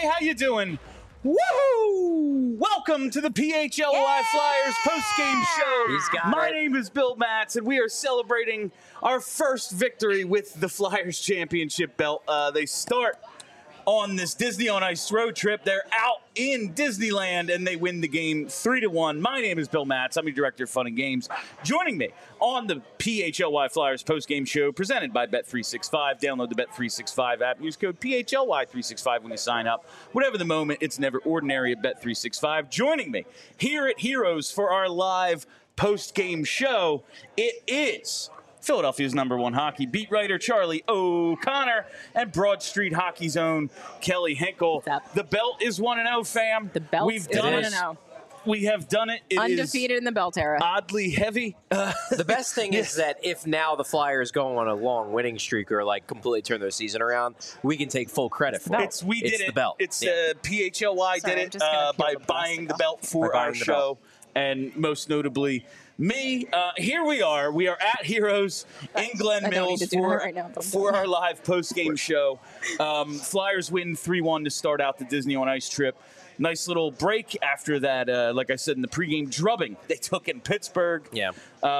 how you doing? Woohoo! Welcome to the PHLY Flyers post-game show. My name is Bill Matz, and we are celebrating our first victory with the Flyers championship belt. They start on this Disney on Ice road trip. They're out in Disneyland, and they win the game 3-1. My name is Bill Matz. I'm your director of fun and games. Joining me on the PHLY Flyers postgame show, presented by Bet365. Download the Bet365 app. Use code PHLY365 when you sign up. Whatever the moment, it's never ordinary at Bet365. Joining me here at Heroes for our live postgame show, it is Philadelphia's #1 hockey beat writer, Charlie O'Connor, and Broad Street Hockey's own Kelly Hinkle. The belt is 1-0, fam. The belt is 1-0. We have done it. It undefeated is in the belt era. Oddly heavy. The best thing is that if now the Flyers go on a long winning streak or like completely turn their season around, we can take full credit for it. It's the belt. It's PHLY Sorry, did it by buying the belt for our show, and most notably me. Here we are. We are at Heroes in Glen Mills for our live post-game show. Flyers win 3-1 to start out the Disney on Ice trip. Nice little break after that, like I said in the pregame, drubbing they took in Pittsburgh. Yeah.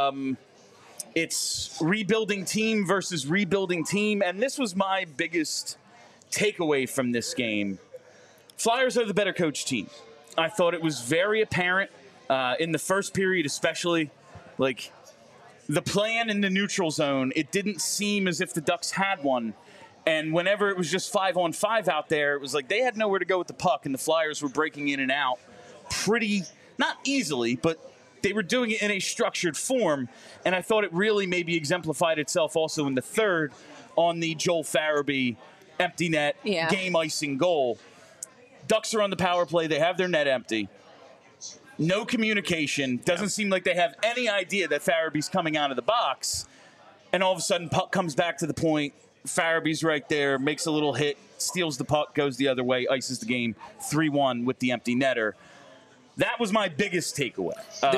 It's rebuilding team versus rebuilding team, and this was my biggest takeaway from this game. Flyers are the better coach team. I thought it was very apparent in the first period, especially, like the plan in the neutral zone. It didn't seem as if the Ducks had one. And whenever it was just 5-on-5 out there, it was like they had nowhere to go with the puck, and the Flyers were breaking in and out pretty, not easily, but they were doing it in a structured form. And I thought it really maybe exemplified itself also in the third on the Joel Farabee empty net game-icing goal. Ducks are on the power play. They have their net empty. No communication. Doesn't seem like they have any idea that Farabee's coming out of the box. And all of a sudden, puck comes back to the point. Farabee's right there, makes a little hit, steals the puck, goes the other way, ices the game 3-1 with the empty netter. That was my biggest takeaway.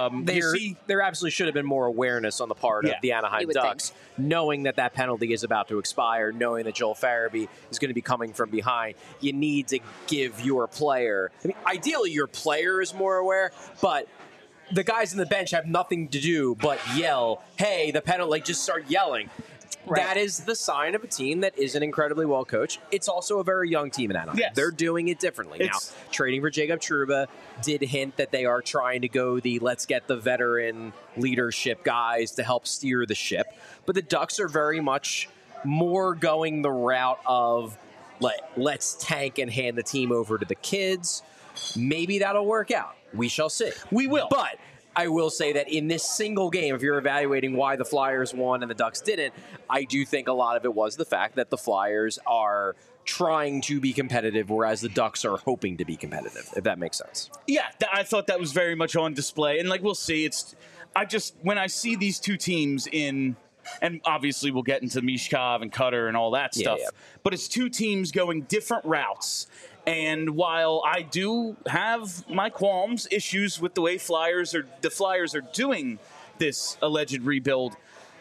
There absolutely should have been more awareness on the part of the Anaheim Ducks, knowing that penalty is about to expire, knowing that Joel Farabee is going to be coming from behind. You need to give your player, ideally your player is more aware, but the guys on the bench have nothing to do but yell, hey, the penalty, just start yelling. Right. That is the sign of a team that isn't incredibly well coached. It's also a very young team in Anaheim. Yes. They're doing it differently. Now, trading for Jacob Trouba did hint that they are trying to go let's get the veteran leadership guys to help steer the ship. But the Ducks are very much more going the route of let's tank and hand the team over to the kids. Maybe that'll work out. We shall see. We will. But I will say that in this single game, if you're evaluating why the Flyers won and the Ducks didn't, I do think a lot of it was the fact that the Flyers are trying to be competitive, whereas the Ducks are hoping to be competitive, if that makes sense. Yeah, I thought that was very much on display. And we'll see. When I see these two teams and obviously we'll get into Mishkov and Cutter and all that stuff, but it's two teams going different routes. And while I do have my qualms, issues with the way the Flyers are doing this alleged rebuild,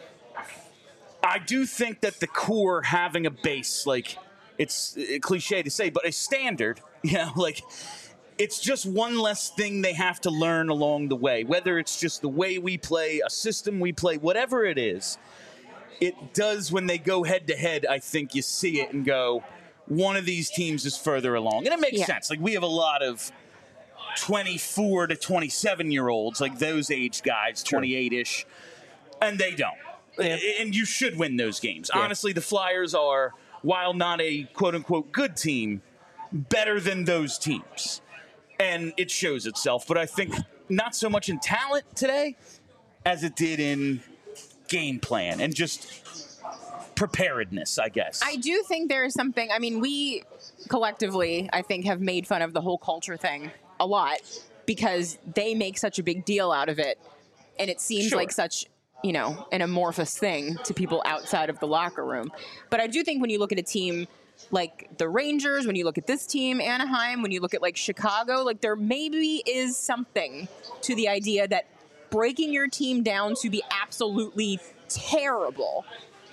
I do think that the core having a base, it's a cliche to say, but a standard, it's just one less thing they have to learn along the way. Whether it's just the way we play, a system we play, whatever it is, it does when they go head-to-head, I think you see it and go, one of these teams is further along. And it makes sense. We have a lot of 24 to 27-year-olds, those age guys, 28-ish, and they don't. Yeah. And you should win those games. Yeah. Honestly, the Flyers are, while not a quote-unquote good team, better than those teams. And it shows itself. But I think not so much in talent today as it did in game plan and just preparedness, I guess. I do think there is something. We collectively, I think, have made fun of the whole culture thing a lot because they make such a big deal out of it. And it seems like such, an amorphous thing to people outside of the locker room. But I do think when you look at a team like the Rangers, when you look at this team, Anaheim, when you look at Chicago, there maybe is something to the idea that breaking your team down to be absolutely terrible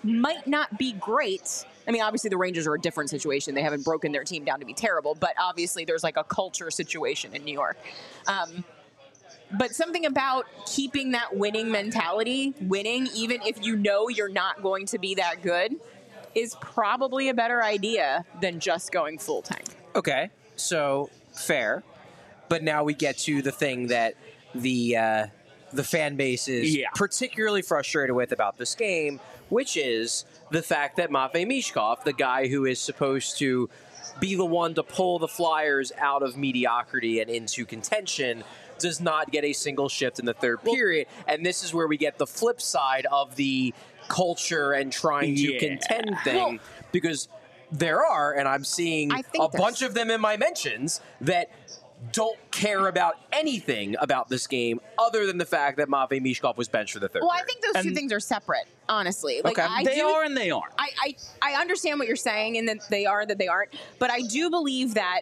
might not be great. I mean, obviously the Rangers are a different situation. They haven't broken their team down to be terrible, but obviously there's like a culture situation in New York. But something about keeping that winning mentality, winning, even if you know you're not going to be that good, is probably a better idea than just going full tank. Okay, so fair. But now we get to the thing that the fan base is particularly frustrated with about this game, which is the fact that Matvei Michkov, the guy who is supposed to be the one to pull the Flyers out of mediocrity and into contention, does not get a single shift in the third period. And this is where we get the flip side of the culture and trying to contend thing, because there are, and I'm seeing a bunch of them in my mentions, that don't care about anything about this game other than the fact that Matvei Michkov was benched for the third period. I think those two things are separate, honestly. Like, they are and they aren't. I understand what you're saying, and that they are, that they aren't. But I do believe that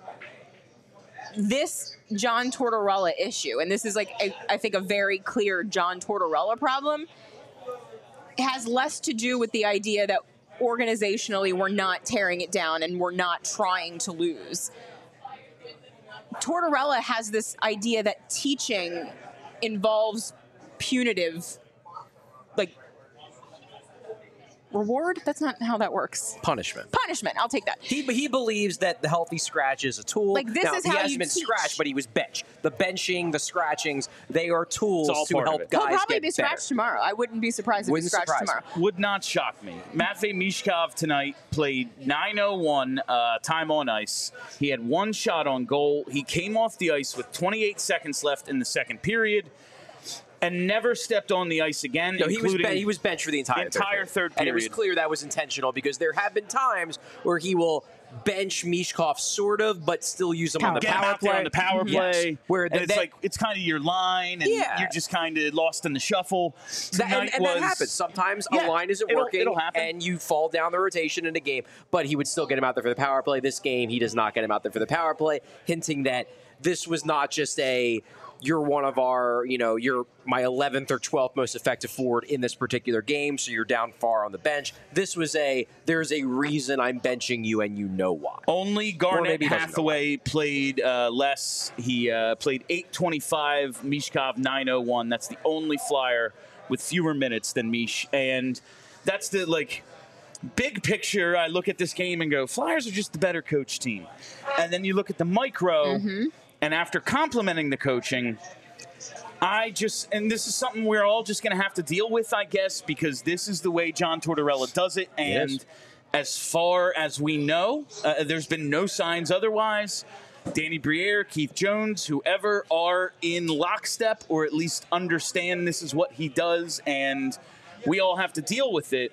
this John Tortorella issue, and this is like, I think, a very clear John Tortorella problem, has less to do with the idea that organizationally we're not tearing it down and we're not trying to lose. Tortorella has this idea that teaching involves punitive, like, reward? That's not how that works. Punishment. Punishment. I'll take that. He believes that the healthy scratch is a tool. Like, this is how he hasn't you been teach. scratched, but he was benched. The benching, the scratchings, they are tools to help guys He'll probably get be scratched better. tomorrow. I wouldn't be surprised if he's scratched tomorrow. Would not shock me. Matvei Michkov tonight played 9:01 time on ice. He had one shot on goal. He came off the ice with 28 seconds left in the second period and never stepped on the ice again. No, he was benched for the entire third period. And it was clear that was intentional, because there have been times where he will bench Michkov sort of, but still use him on the power play. On the power play. Yes. Where it's like, it's kind of your line, and you're just kind of lost in the shuffle. And that happens. Sometimes a line isn't working, it'll happen. and you fall down the rotation in a game, but he would still get him out there for the power play. This game, he does not get him out there for the power play, hinting that this was not just you're one of our, you're my 11th or 12th most effective forward in this particular game, so you're down far on the bench. This was there's a reason I'm benching you, and you know why. Only Garnet Hathaway played less. He played 8:25, Michkov 9:01. That's the only Flyer with fewer minutes than Mish. And that's the, big picture. I look at this game and go, Flyers are just the better coach team. And then you look at the micro, and after complimenting the coaching, and this is something we're all just going to have to deal with, I guess, because this is the way John Tortorella does it. And as far as we know, there's been no signs otherwise. Danny Briere, Keith Jones, whoever are in lockstep, or at least understand this is what he does, and we all have to deal with it.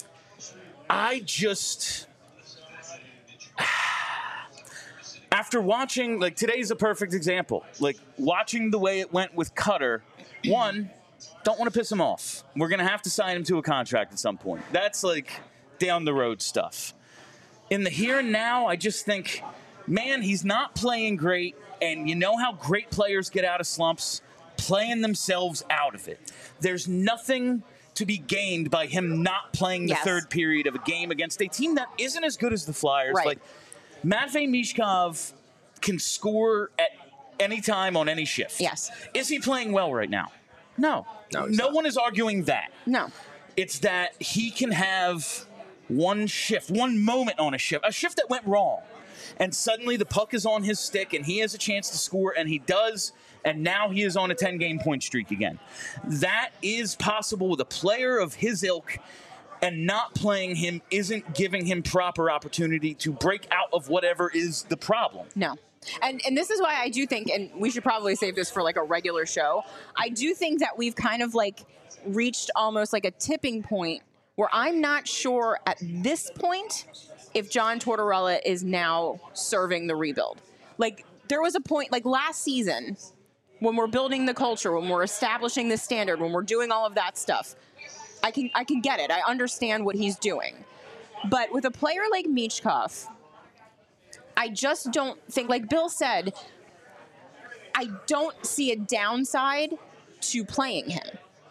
After watching, today's a perfect example. Watching the way it went with Cutter, one, don't want to piss him off. We're going to have to sign him to a contract at some point. That's, down the road stuff. In the here and now, I just think, man, he's not playing great, and you know how great players get out of slumps? Playing themselves out of it. There's nothing to be gained by him not playing the third period of a game against a team that isn't as good as the Flyers. Right. Matvei Michkov can score at any time on any shift. Yes. Is he playing well right now? No. No one is arguing that. No. It's that he can have one shift, one moment on a shift that went wrong. And suddenly the puck is on his stick and he has a chance to score, and he does, and now he is on a 10-game point streak again. That is possible with a player of his ilk, and not playing him isn't giving him proper opportunity to break out of whatever is the problem. No. And this is why I do think, and we should probably save this for a regular show, I do think that we've kind of reached almost a tipping point where I'm not sure at this point if John Tortorella is now serving the rebuild. There was a point, last season, when we're building the culture, when we're establishing the standard, when we're doing all of that stuff, I can get it. I understand what he's doing. But with a player like Michkov, I just don't think, like Bill said, I don't see a downside to playing him.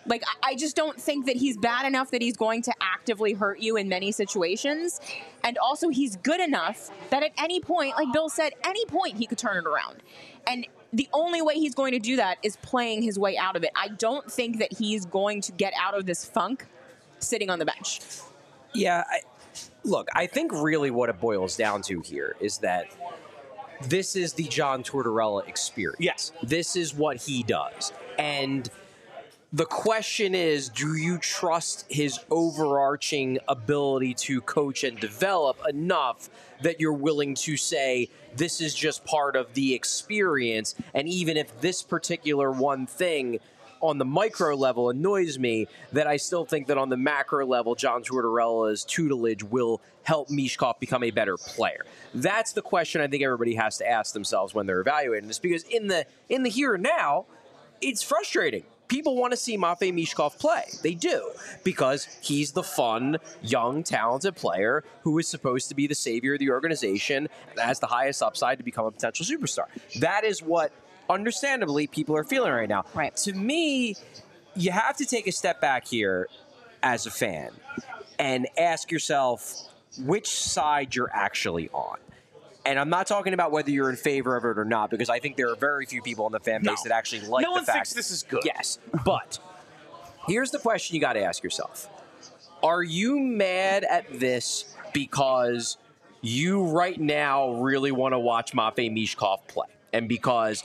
Like, I just don't think that he's bad enough that he's going to actively hurt you in many situations. And also, he's good enough that at any point, like Bill said, any point he could turn it around. And the only way he's going to do that is playing his way out of it. I don't think that he's going to get out of this funk sitting on the bench. Yeah, look, I think really what it boils down to here is that this is the John Tortorella experience. Yes. This is what he does. And the question is, do you trust his overarching ability to coach and develop enough that you're willing to say this is just part of the experience? And even if this particular one thing on the micro level annoys me, that I still think that on the macro level, John Tortorella's tutelage will help Michkov become a better player. That's the question I think everybody has to ask themselves when they're evaluating this, because in the here and now, it's frustrating. People want to see Matvei Michkov play. They do, because he's the fun, young, talented player who is supposed to be the savior of the organization and has the highest upside to become a potential superstar. That is what, understandably, people are feeling right now. Right. To me, you have to take a step back here as a fan and ask yourself which side you're actually on. And I'm not talking about whether you're in favor of it or not, because I think there are very few people in the fan base that actually like the fact. No one thinks this is good. Yes, but here's the question you got to ask yourself. Are you mad at this because you right now really want to watch Matvei Michkov play? And because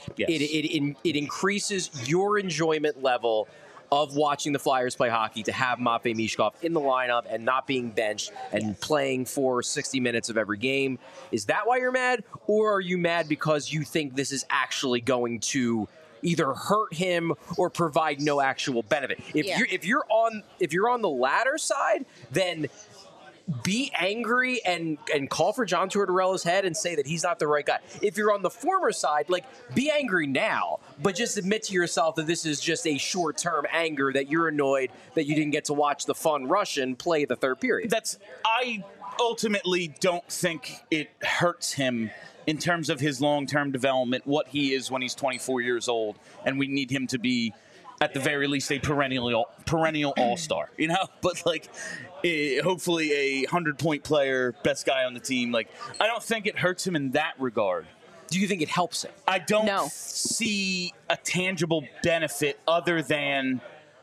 it increases your enjoyment level of watching the Flyers play hockey to have Matvei Michkov in the lineup and not being benched and playing for 60 minutes of every game. Is that why you're mad? Or are you mad because you think this is actually going to either hurt him or provide no actual benefit? If you're on the latter side, then be angry and call for John Tortorella's head and say that he's not the right guy. If you're on the former side, like, be angry now, but just admit to yourself that this is just a short-term anger, that you're annoyed that you didn't get to watch the fun Russian play the third period. I ultimately don't think it hurts him in terms of his long-term development, what he is when he's 24 years old, and we need him to be, at the very least, a perennial all-star, you know? But, like, hopefully a 100-point player, best guy on the team. Like, I don't think it hurts him in that regard. Do you think it helps him? I don't see a tangible benefit other than,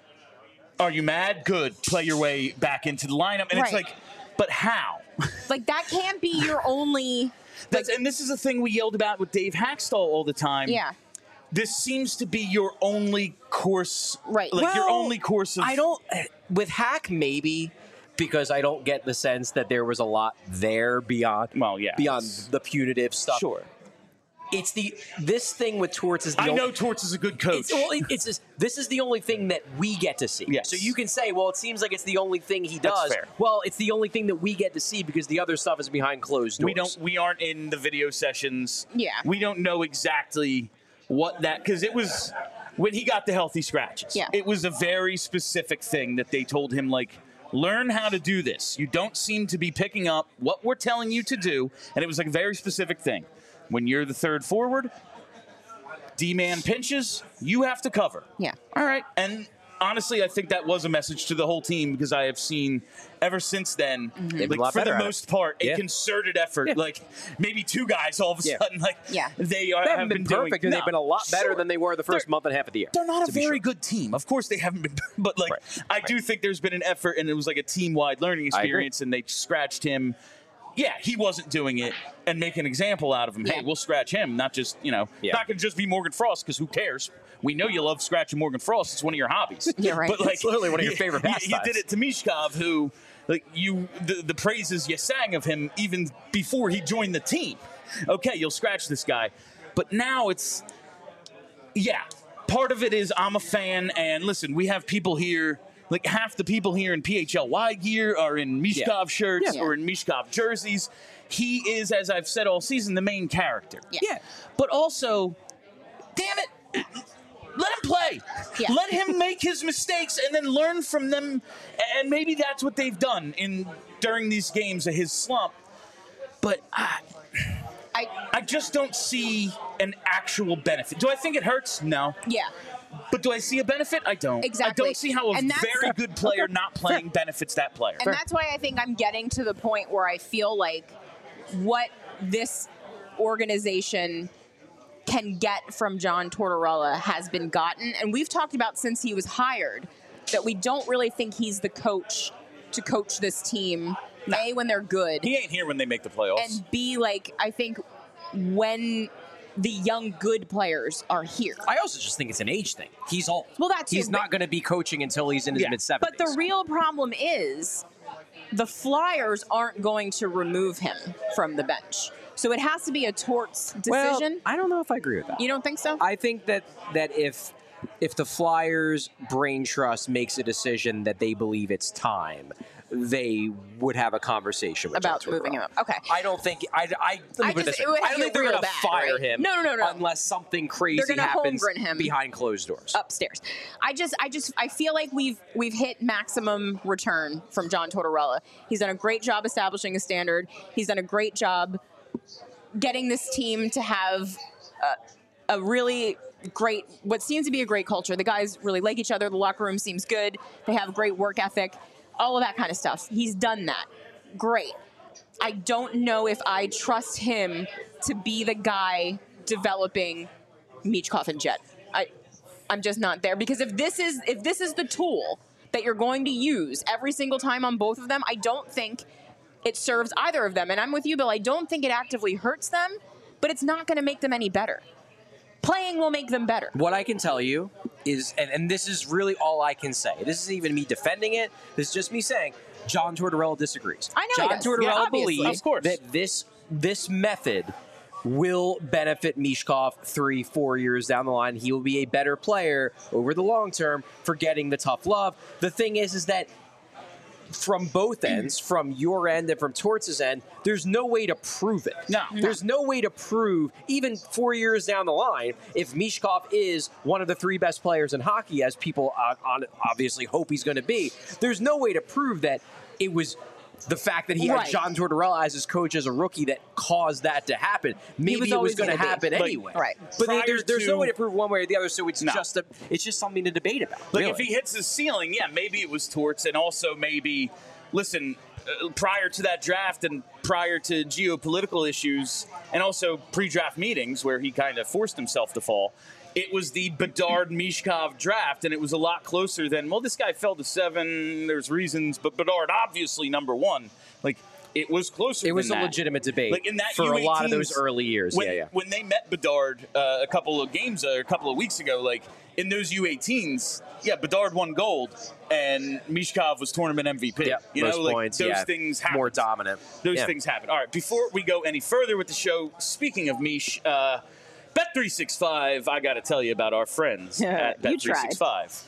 are you mad? Good. Play your way back into the lineup. And it's like, but how? Like, that can't be your only... And this is a thing we yelled about with Dave Hackstall all the time. Yeah. This seems to be your only course. Right. Like, your only course of... I don't... With Hack, maybe... Because I don't get the sense that there was a lot there beyond beyond the punitive stuff. Sure. It's this thing with Torts is the I know Torts is a good coach. This is the only thing that we get to see. Yes. So you can say, well, it seems like it's the only thing he does. That's fair. Well, it's the only thing that we get to see because the other stuff is behind closed doors. We aren't in the video sessions. Yeah. We don't know exactly what that, because it was when he got the healthy scratches. Yeah. It was a very specific thing that they told him, like, learn how to do this. You don't seem to be picking up what we're telling you to do. And it was like a very specific thing. When you're the third forward, D-man pinches, you have to cover. Yeah. All right. And honestly, I think that was a message to the whole team, because I have seen ever since then, like, for the most part, a concerted effort. Like, maybe two guys all of a sudden, like, they haven't been perfect, and they've been a lot better than they were the first month and a half of the year. They're not a very good team. Of course, they haven't been, but like, I do think there's been an effort, and it was like a team-wide learning experience, and they scratched him. Yeah, he wasn't doing it, and make an example out of him. Hey, we'll scratch him, not just, not going to just be Morgan Frost, because who cares? We know you love scratching Morgan Frost. It's one of your hobbies. Yeah, right. But, like, it's literally one of your favorite pastimes. You did it to Michkov, who, like, the praises you sang of him even before he joined the team. Okay, you'll scratch this guy. But now it's, part of it is I'm a fan, and listen, we have people here. Like, half the people here in PHLY gear are in Michkov shirts or in Michkov jerseys. He is, as I've said all season, the main character. Yeah. But also, damn it, let him play. Yeah. Let him make his mistakes and then learn from them. And maybe that's what they've done during these games of his slump. But I just don't see an actual benefit. Do I think it hurts? No. Yeah. But do I see a benefit? I don't. Exactly. I don't see how a very good player not playing benefits that player. And that's why I think I'm getting to the point where I feel like what this organization can get from John Tortorella has been gotten. And we've talked about since he was hired that we don't really think he's the coach to coach this team. No. A, when they're good. He ain't here when they make the playoffs. And B, like, I think when the young good players are here. I also just think it's an age thing. He's old. Well, that's he's not going to be coaching until he's in his mid-70s. But the real problem is the Flyers aren't going to remove him from the bench. So it has to be a Torts decision. Well, I don't know if I agree with that. You don't think so? I think that if the Flyers' brain trust makes a decision that they believe it's time, they would have a conversation with about moving him up. Okay. I don't think I don't think they're going to fire him. No. Unless something crazy happens behind closed doors upstairs. I feel like we've hit maximum return from John Tortorella. He's done a great job establishing a standard. He's done a great job getting this team to have a really great, what seems to be a great culture. The guys really like each other. The locker room seems good. They have great work ethic. All of that kind of stuff. He's done that. Great. I don't know if I trust him to be the guy developing Michkov and Jet. I'm just not there, because if this is the tool that you're going to use every single time on both of them, I don't think it serves either of them. And I'm with you, Bill. I don't think it actively hurts them, but it's not going to make them any better. Playing will make them better. What I can tell you is, and this is really all I can say. This isn't even me defending it. This is just me saying, John Tortorella disagrees. I know John Tortorella believes that this method will benefit Michkov 3-4 years down the line. He will be a better player over the long term for getting the tough love. The thing is that from both ends, from your end and from Torts' end, there's no way to prove it. No. There's no way to prove, even 4 years down the line, if Michkov is one of the 3 best players in hockey, as people obviously hope he's going to be, there's no way to prove that it was the fact that he had John Tortorella as his coach as a rookie that caused that to happen. Maybe it was going to happen anyway. Right. But there's no way to prove one way or the other, so it's just something to debate about. Like, if he hits the ceiling, maybe it was Torts, and also maybe, listen, prior to that draft and prior to geopolitical issues and also pre-draft meetings where he kind of forced himself to fall, it was the Bedard-Michkov draft, and it was a lot closer than, well, this guy fell to 7, there's reasons, but Bedard obviously number 1. Like, it was closer It was than a that. legitimate debate like in that for U18s, a lot of those early years. When they met Bedard a couple of games, a couple of weeks ago, like, in those U18s, Bedard won gold, and Michkov was tournament MVP. Yep, you know, most like, points, those things happen. More dominant. Those things happen. All right, before we go any further with the show, speaking of Mish, Bet365, I got to tell you about our friends at Bet365.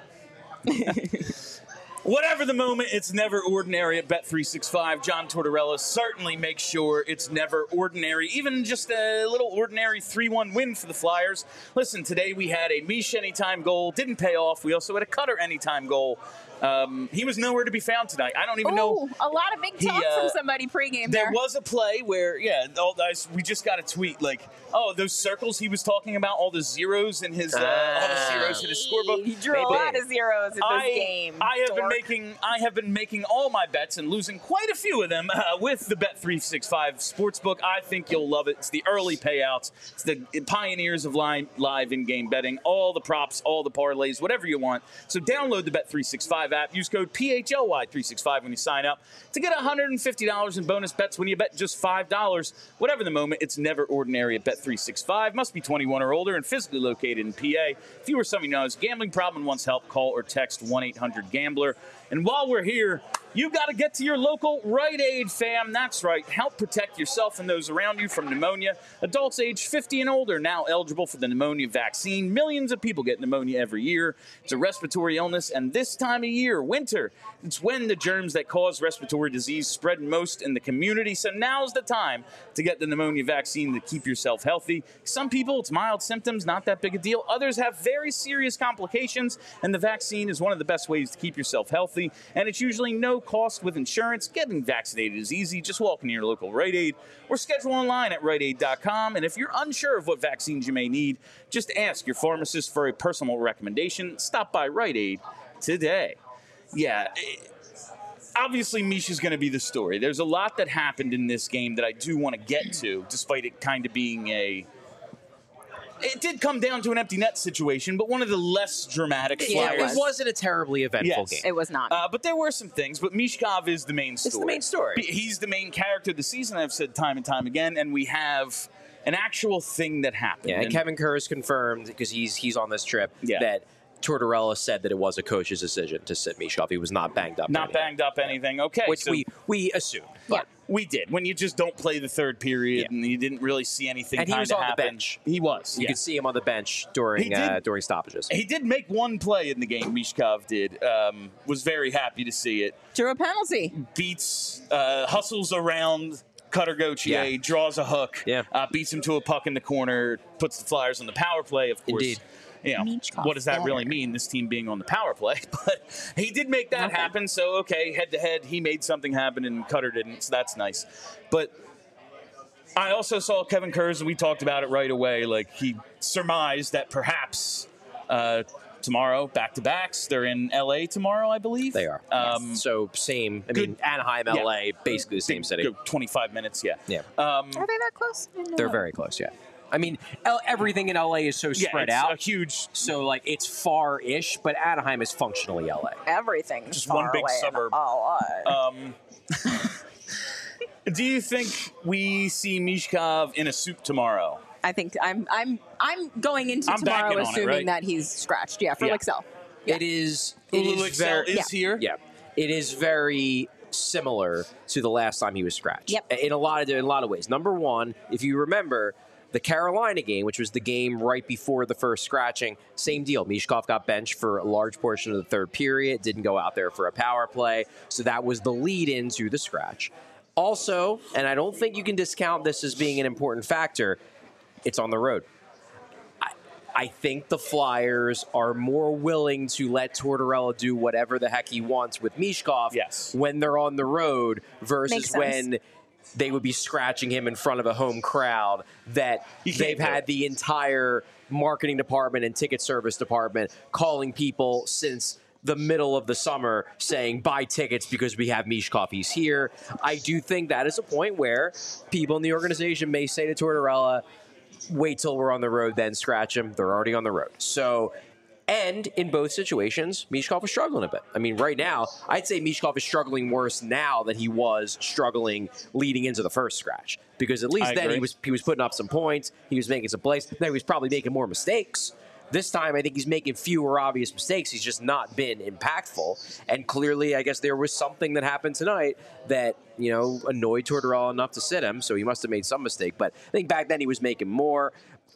Whatever the moment, it's never ordinary at Bet365. John Tortorella certainly makes sure it's never ordinary, even just a little ordinary 3-1 win for the Flyers. Listen, today we had a Mish anytime goal, didn't pay off. We also had a Cutter anytime goal. He was nowhere to be found tonight. I don't even know. A lot of big talk from somebody pregame there. There was a play where, we just got a tweet like, those circles he was talking about, all the zeros in his, all the zeros in his scorebook. He drew a lot of zeros in this game. I have been making all my bets and losing quite a few of them with the Bet365 Sportsbook. I think you'll love it. It's the early payouts. It's the pioneers of live in-game betting. All the props, all the parlays, whatever you want. So download the Bet365 app. Use code PHLY365 when you sign up to get $150 in bonus bets when you bet just $5. Whatever the moment, it's never ordinary at Bet365. Must be 21 or older and physically located in PA. If you or somebody knows gambling problem and wants help, call or text 1-800-GAMBLER. And while we're here, you got to get to your local Rite Aid, fam. That's right. Help protect yourself and those around you from pneumonia. Adults age 50 and older now eligible for the pneumonia vaccine. Millions of people get pneumonia every year. It's a respiratory illness, and this time of year, winter, it's when the germs that cause respiratory disease spread most in the community. So now's the time to get the pneumonia vaccine to keep yourself healthy. Some people, it's mild symptoms, not that big a deal. Others have very serious complications, and the vaccine is one of the best ways to keep yourself healthy. healthy, and it's usually no cost with insurance. Getting vaccinated is easy. Just walk into your local Rite Aid or schedule online at riteaid.com. And if you're unsure of what vaccines you may need, just ask your pharmacist for a personal recommendation. Stop by Rite Aid today. Yeah, obviously Misha's going to be the story. There's a lot that happened in this game that I do want to get to, despite it kind of being it did come down to an empty net situation, but one of the less dramatic Flyers. It wasn't a terribly eventful game. It was not. But there were some things. But Michkov is the main story. It's the main story. He's the main character of the season, I've said time and time again, and we have an actual thing that happened. Yeah, and Kevin Kerr has confirmed, because he's on this trip, that Tortorella said that it was a coach's decision to sit Michkov. He was not banged up. Not banged up anything. Okay. Which so we assumed. But we did. When you just don't play the third period and you didn't really see anything and he was on happen. the bench. He was. You could see him on the bench during stoppages. He did make one play in the game, Michkov did. Was very happy to see it. Drew a penalty. Beats, hustles around Cutter Gauthier, draws a hook, beats him to a puck in the corner, puts the Flyers on the power play, of course. Indeed. You know, what does that really mean, this team being on the power play? But he did make that happen, so head-to-head, he made something happen and Cutter didn't, so that's nice. But I also saw Kevin Kurz, and we talked about it right away, like he surmised that perhaps tomorrow, back-to-backs, they're in L.A. tomorrow, I believe. They are. So same, Anaheim, L.A., basically the same city. 25 minutes, Are they that close? They're very close, I mean, everything in LA is so spread out. It's a huge. So, like, it's far-ish, but Anaheim is functionally LA. Everything's just far one big away suburb. Do you think we see Michkov in a suit tomorrow? I think I'm going into tomorrow assuming that he's scratched. Yeah, for Lixell. It is. Lixell is here. Yeah, it is very similar to the last time he was scratched. Yep. In a lot of ways. Number one, if you remember, the Carolina game, which was the game right before the first scratching, same deal. Michkov got benched for a large portion of the third period, didn't go out there for a power play, so that was the lead-in to the scratch. Also, and I don't think you can discount this as being an important factor, it's on the road. I think the Flyers are more willing to let Tortorella do whatever the heck he wants with Michkov when they're on the road versus when they would be scratching him in front of a home crowd that they've had the entire marketing department and ticket service department calling people since the middle of the summer saying, buy tickets because we have Michkov, he's here. I do think that is a point where people in the organization may say to Tortorella, wait till we're on the road, then scratch him. They're already on the road. So, and in both situations, Michkov is struggling a bit. I mean, right now, I'd say Michkov is struggling worse now than he was struggling leading into the first scratch. Because at least then he was putting up some points, he was making some plays, then he was probably making more mistakes. This time, I think he's making fewer obvious mistakes. He's just not been impactful. And clearly, I guess there was something that happened tonight that, annoyed Tortorella enough to sit him, so he must have made some mistake. But I think back then he was making more.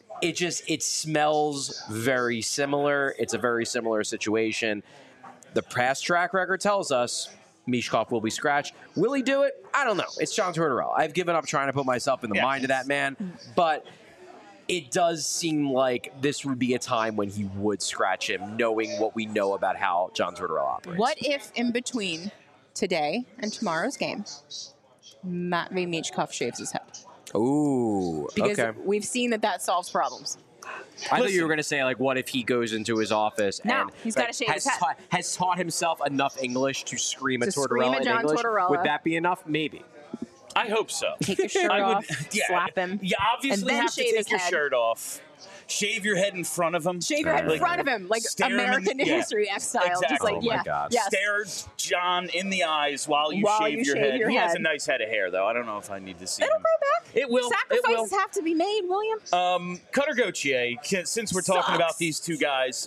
It smells very similar. It's a very similar situation. The past track record tells us Michkov will be scratched. Will he do it? I don't know. It's John Tortorella. I've given up trying to put myself in the mind of that man. But it does seem like this would be a time when he would scratch him, knowing what we know about how John Tortorella operates. What if in between today and tomorrow's game, Matvei Michkov shaves his head? Ooh, because we've seen that solves problems. I thought you were going to say, like, what if he goes into his office and he's got to shave his head. Has taught himself enough English to scream at Tortorella in English? Tortorella. Would that be enough? Maybe. I hope so. Take your shirt off, slap him. You obviously have to take your shirt off. Shave your head in front of him. Shave your head in front of him, like American History X style. Exactly. Just like, God. Stare John in the eyes while you shave your head. He has a nice head of hair, though. I don't know if I need to see It'll him. grow back. It will. Sacrifices have to be made, William. Cutter Gauthier, since we're talking about these two guys,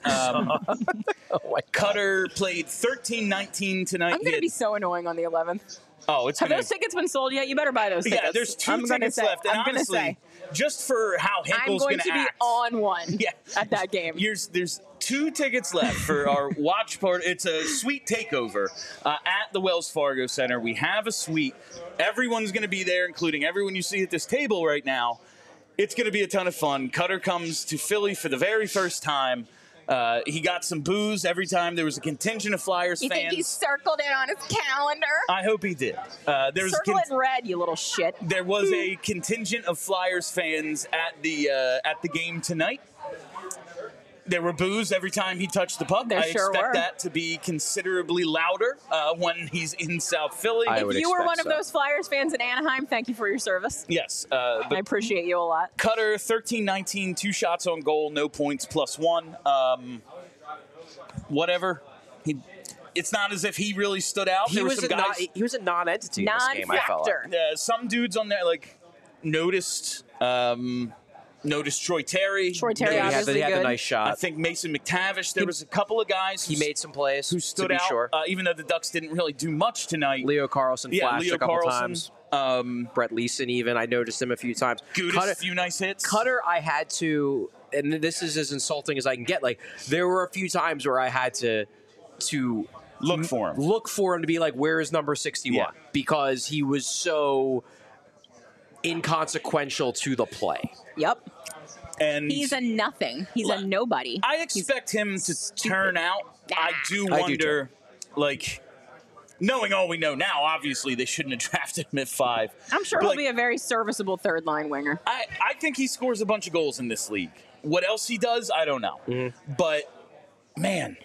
Cutter played 13-19 tonight. I'm going to be so annoying on the 11th. Oh, it's Have those tickets been sold yet? You better buy those tickets. Yeah, there's two tickets left. And I'm going to say, just for how Hinkle's going to be on one at that game. There's two tickets left for our watch party. It's a suite takeover at the Wells Fargo Center. We have a suite. Everyone's going to be there, including everyone you see at this table right now. It's going to be a ton of fun. Cutter comes to Philly for the very first time. He got some boos every time there was a contingent of Flyers You fans. think he circled it on his calendar? I hope he did. There was Circle it in red, you little shit. There was a contingent of Flyers fans at the game tonight. There were boos every time he touched the puck. There I sure expect were. that to be considerably louder when he's in South Philly. If you were one of those Flyers fans in Anaheim, thank you for your service. Yes. I appreciate you a lot. Cutter, 13-19, 2 shots on goal, no points, +1. Whatever. It's not as if he really stood out. He was a non-entity in this game, I felt like. Some dudes on there, like, noticed Troy Terry. Troy Terry, obviously he had good. a nice shot. I think Mason McTavish. There was a couple of guys. He made some plays who stood to be out. Sure. Even though the Ducks didn't really do much tonight. Leo Carlson flashed a couple times. Brett Leeson even. I noticed him a few times. Gudis, a few nice hits. Cutter, I had to, and this is as insulting as I can get. Like, there were a few times where I had to look for him to be like, where is number 61? Yeah. Because he was so inconsequential to the play. Yep. And he's a nothing. He's a nobody. I expect him to turn out. I do wonder, like, knowing all we know now, obviously they shouldn't have drafted him at 5. I'm sure he'll be a very serviceable third line winger. I think he scores a bunch of goals in this league. What else he does, I don't know. Mm-hmm. But, man,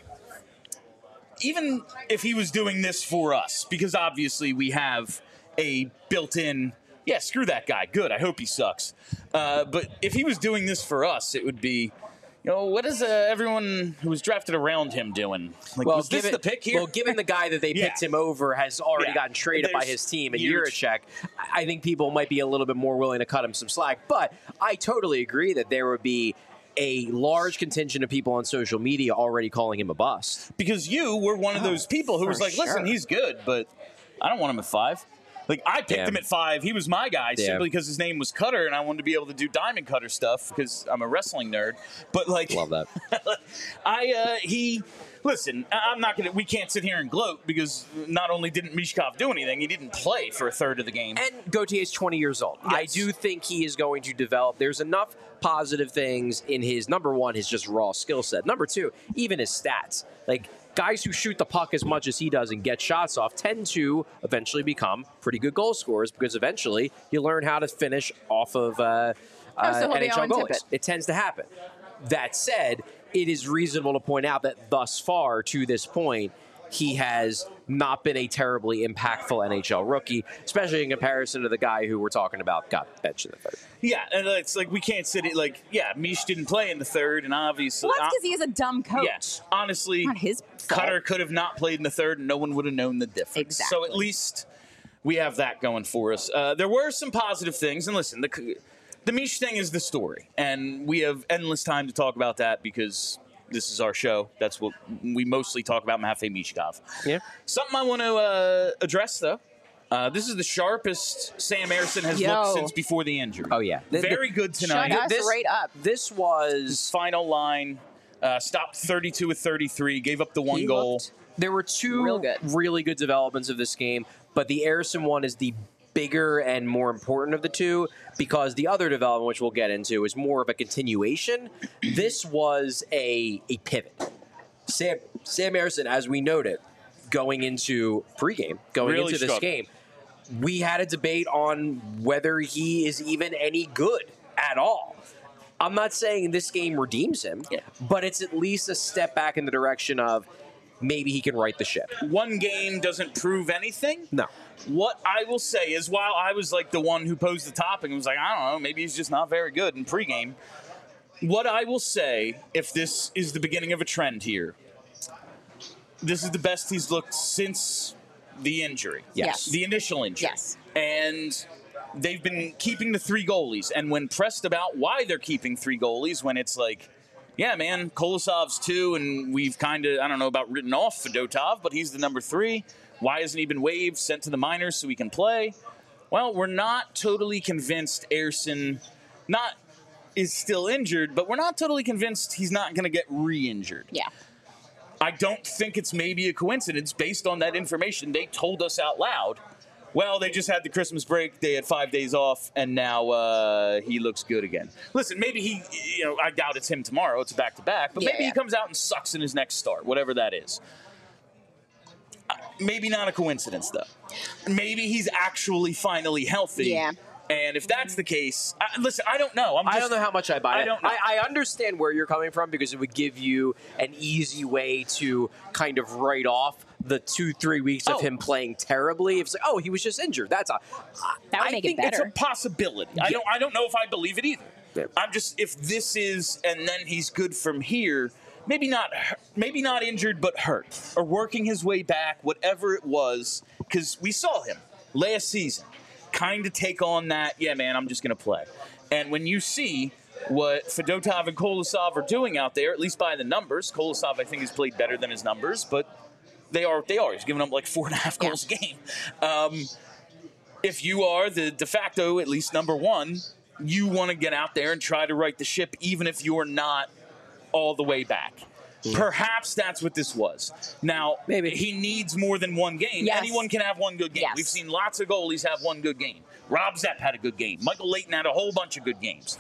even if he was doing this for us, because obviously we have a built-in, yeah, screw that guy. Good. I hope he sucks. But if he was doing this for us, it would be, what is everyone who was drafted around him doing? Like, was this the pick here? Well, given the guy that they picked him over has already gotten traded by his team in Jiricek, I think people might be a little bit more willing to cut him some slack. But I totally agree that there would be a large contingent of people on social media already calling him a bust. Because you were one of those people who was like, listen, he's good, but I don't want him at 5. Like, I picked him at 5. He was my guy simply because his name was Cutter, and I wanted to be able to do diamond cutter stuff because I'm a wrestling nerd. But, like, love that. Listen, I'm not gonna. We can't sit here and gloat because not only didn't Mishkov do anything, he didn't play for a third of the game. And Gautier's 20 years old. Yes. I do think he is going to develop. There's enough positive things in his, number one, his just raw skill set. Number two, even his stats. Like, guys who shoot the puck as much as he does and get shots off tend to eventually become pretty good goal scorers because eventually you learn how to finish off of NHL goalies. It tends to happen. That said, it is reasonable to point out that thus far, to this point, he has not been a terribly impactful NHL rookie, especially in comparison to the guy who we're talking about got benched in the third. Yeah, and it's like we can't sit it like, Mish didn't play in the third, and obviously... Well, that's because he is a dumb coach. Yes, honestly, not his fault. Cutter could have not played in the third, and no one would have known the difference. Exactly. So at least we have that going for us. There were some positive things, and listen, the Mish thing is the story, and we have endless time to talk about that because this is our show. That's what we mostly talk about, Matvei Michkov. Yeah. Something I want to address, though. This is the sharpest Sam Ersson has looked since before the injury. Oh, yeah. Very good tonight. Shut us right up. This was... His final line, stopped 32 of 33, gave up the one goal. There were two really good developments of this game, but the Ersson one is the bigger and more important of the two because the other development, which we'll get into, is more of a continuation. This was a pivot. Sam Ersson, as we noted, going into pregame, into this game, we had a debate on whether he is even any good at all. I'm not saying this game redeems him, but it's at least a step back in the direction of maybe he can right the ship. One game doesn't prove anything. No. What I will say is, while I was like the one who posed the topic and was like, I don't know, maybe he's just not very good in pregame. What I will say, if this is the beginning of a trend here, this is the best he's looked since the injury. Yes. The initial injury. Yes. And they've been keeping the 3 goalies. And when pressed about why they're keeping 3 goalies, when it's like, yeah, man, Kolosov's 2, and we've kind of, I don't know about written off Fedotov, but he's the number 3. Why hasn't he been waived, sent to the minors so he can play? Well, we're not totally convinced Ersson is still injured, but we're not totally convinced he's not going to get re-injured. Yeah. I don't think it's maybe a coincidence based on that information they told us out loud well, they just had the Christmas break. They had 5 days off, and now he looks good again. Listen, maybe he, I doubt it's him tomorrow. It's a back-to-back. But maybe he comes out and sucks in his next start, whatever that is. Maybe not a coincidence, though. Maybe he's actually finally healthy. Yeah. And if that's the case, listen, I don't know. I don't know how much I buy it. I don't know. I understand where you're coming from because it would give you an easy way to kind of write off the 2-3 weeks of him playing terribly. It's like, he was just injured. That would make it better. It's a possibility. Yeah. I don't know if I believe it either. Yeah. I'm just, if this is, and then he's good from here. Maybe not injured, but hurt or working his way back, whatever it was, because we saw him last season kind of take on that. Yeah, man, I'm just going to play. And when you see what Fedotov and Kolosov are doing out there, at least by the numbers, Kolosov I think has played better than his numbers, but they are. He's giving up like 4.5 goals a game. If you are the de facto, at least number one, you want to get out there and try to right the ship, even if you're not all the way back. Perhaps that's what this was. Now, maybe he needs more than one game. Yes. Anyone can have one good game. Yes. We've seen lots of goalies have one good game. Rob Zepp had a good game. Michael Leighton had a whole bunch of good games.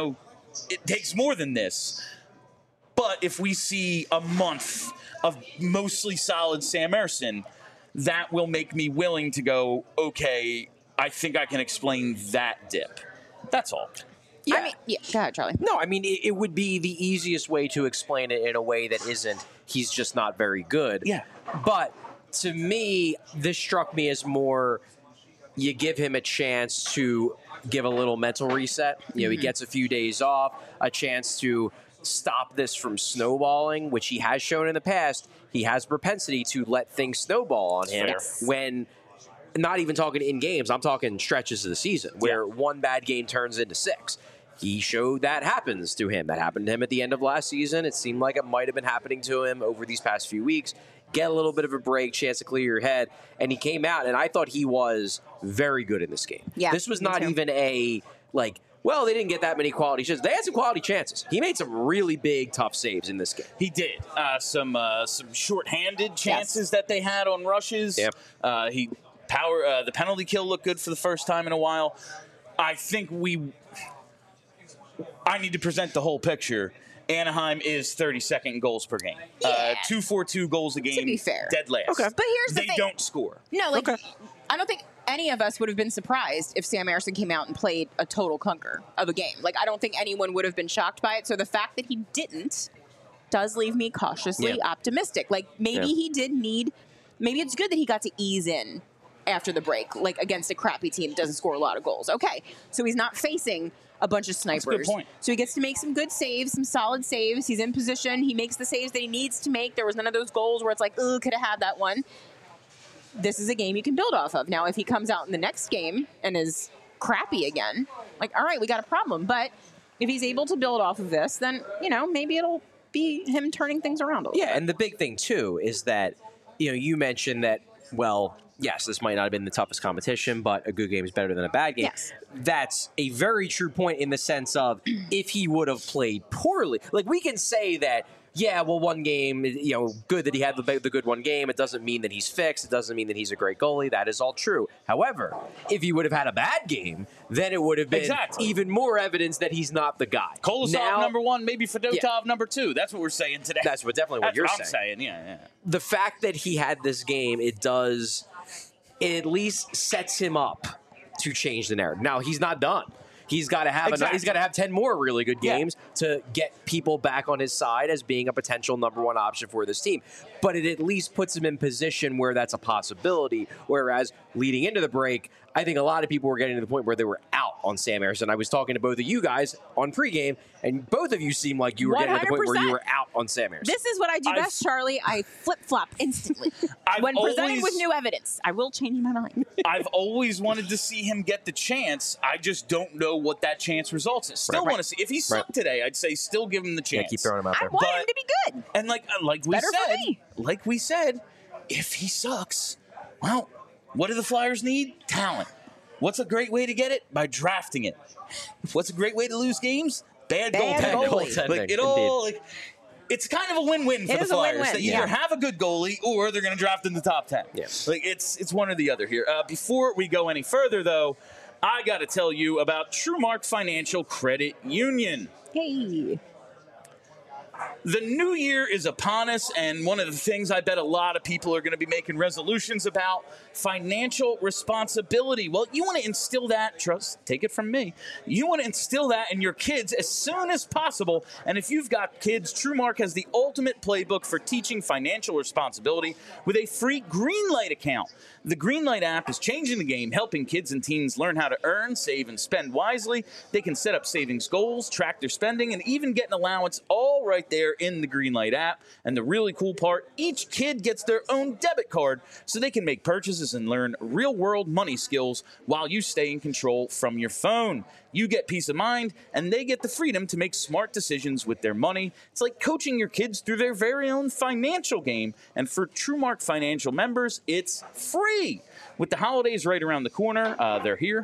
It takes more than this. But if we see a month of mostly solid Sam Ersson, that will make me willing to go, okay, I think I can explain that dip. That's all. Yeah. Go ahead, Charlie. No, it would be the easiest way to explain it in a way that isn't he's just not very good. Yeah. But to me, this struck me as more you give him a chance to give a little mental reset. He gets a few days off, a chance to stop this from snowballing, which he has shown in the past. He has propensity to let things snowball on him when not even talking in games. I'm talking stretches of the season where one bad game turns into 6. He showed that happens to him. That happened to him at the end of last season. It seemed like it might have been happening to him over these past few weeks. Get a little bit of a break, chance to clear your head. And he came out, and I thought he was very good in this game. Yeah, this was not even they didn't get that many quality chances. They had some quality chances. He made some really big, tough saves in this game. He did. Some shorthanded chances that they had on rushes. Yep. The penalty kill looked good for the first time in a while. I think I need to present the whole picture. Anaheim is 32nd in goals per game. 2.42 goals a game. To be fair. Dead last. Okay. But here's the thing. They don't score. No, I don't think any of us would have been surprised if Sam Ersson came out and played a total clunker of a game. I don't think anyone would have been shocked by it. So the fact that he didn't does leave me cautiously optimistic. Maybe he did need, maybe it's good that he got to ease in after the break, against a crappy team that doesn't score a lot of goals. Okay, so he's not facing a bunch of snipers. That's a good point. So he gets to make some good saves, some solid saves. He's in position. He makes the saves that he needs to make. There was none of those goals where it's could have had that one. This is a game you can build off of. Now, if he comes out in the next game and is crappy again, all right, we got a problem. But if he's able to build off of this, then, maybe it'll be him turning things around a little bit. And the big thing, too, is that, you mentioned that, yes, this might not have been the toughest competition, but a good game is better than a bad game. Yes. That's a very true point in the sense of if he would have played poorly. We can say that, one game, good that he had the good one game. It doesn't mean that he's fixed. It doesn't mean that he's a great goalie. That is all true. However, if he would have had a bad game, then it would have been even more evidence that he's not the guy. Kolosov number 1, maybe Fedotov number 2. That's what we're saying today. That's definitely what you're saying. Yeah. The fact that he had this game, it at least sets him up to change the narrative. Now, he's not done. He's got to have he's got to have 10 more really good games to get people back on his side as being a potential number 1 option for this team. But it at least puts him in position where that's a possibility. Whereas leading into the break, I think a lot of people were getting to the point where they were out on Sam Ersson. I was talking to both of you guys on pregame, and both of you seemed like you were getting to the point where you were out on Sam Ersson. This is what I do best, Charlie. I flip-flop instantly. When presented with new evidence, I will change my mind. I've always wanted to see him get the chance. I just don't know what that chance results in. Still want to see. If he sucked today, I'd say still give him the chance. Keep throwing him out there. I want him to be good. And like we said, if he sucks, well, what do the Flyers need? Talent. What's a great way to get it? By drafting it. What's a great way to lose games? Bad goaltending. it's kind of a win-win for the Flyers. They either have a good goalie or they're going to draft in the top 10. Yeah. Like it's one or the other here. Before we go any further, though, I got to tell you about TrueMark Financial Credit Union. Hey. The new year is upon us, and one of the things I bet a lot of people are going to be making resolutions about, financial responsibility. Well, you want to instill that, take it from me, you want to instill that in your kids as soon as possible. And if you've got kids, TrueMark has the ultimate playbook for teaching financial responsibility with a free Greenlight account. The Greenlight app is changing the game, helping kids and teens learn how to earn, save, and spend wisely. They can set up savings goals, track their spending, and even get an allowance all right there in the Greenlight app. And the really cool part, each kid gets their own debit card so they can make purchases and learn real-world money skills while you stay in control from your phone. You get peace of mind, and they get the freedom to make smart decisions with their money. It's like coaching your kids through their very own financial game. And for TrueMark Financial members, it's free. With the holidays right around the corner, they're here.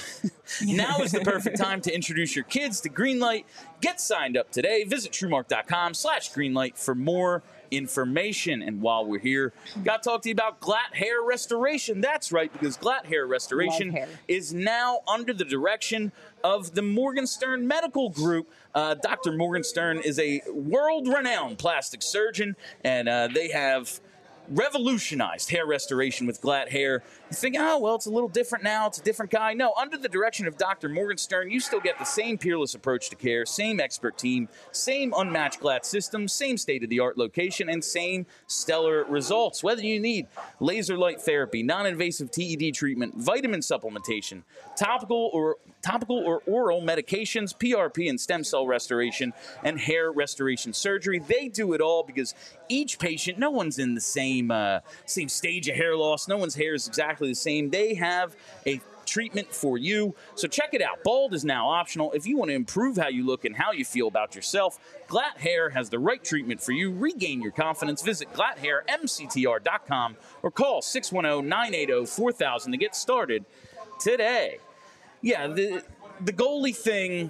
Now is the perfect time to introduce your kids to Greenlight. Get signed up today. Visit TrueMark.com/Greenlight for more information. And while we're here, got to talk to you about Glatt Hair Restoration. That's right, because Glatt Hair Restoration is now under the direction of the Morgenstern Medical Group. Dr. Morgenstern is a world-renowned plastic surgeon, and they have revolutionized hair restoration with Glatt Hair. You think, oh, well, it's a little different now. It's a different guy. No, under the direction of Dr. Morgenstern, you still get the same peerless approach to care, same expert team, same unmatched Glatt system, same state-of-the-art location, and same stellar results. Whether you need laser light therapy, non-invasive TED treatment, vitamin supplementation, topical or oral medications, PRP and stem cell restoration, and hair restoration surgery, they do it all because each patient, no one's in the same stage of hair loss. No one's hair is exactly the same. They have a treatment for you. So check it out. Bald is now optional. If you want to improve how you look and how you feel about yourself, Glatt Hair has the right treatment for you. Regain your confidence. Visit GlattHairMCTR.com or call 610-980-4000 to get started today. Yeah, the goalie thing,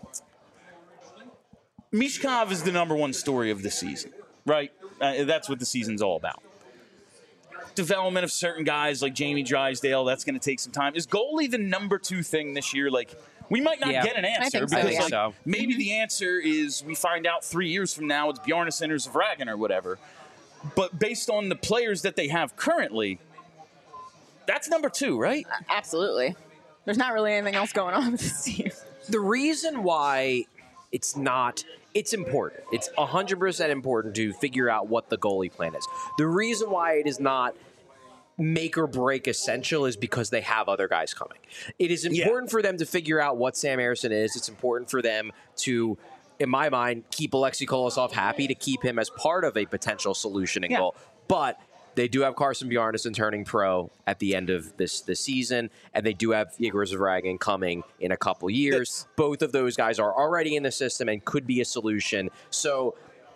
Mishkov is the number one story of the season, right? That's what the season's all about. Development of certain guys like Jamie Drysdale, that's going to take some time. Is goalie the number two thing this year? Like, we might not get an answer because maybe the answer is we find out 3 years from now it's Bjarnason or Zvragin or whatever. But based on the players that they have currently, that's number two, right? Absolutely. There's not really anything else going on with this team. The reason why it's important. It's 100% important to figure out what the goalie plan is. The reason why it is not make or break essential is because they have other guys coming. It is important for them to figure out what Sam Ersson is. It's important for them to, in my mind, keep Alexei Kolosov happy, to keep him as part of a potential solution in goal. But they do have Carson Bjarnason turning pro at the end of this season, and they do have Igor Zvragin coming in a couple years. Both of those guys are already in the system and could be a solution. So,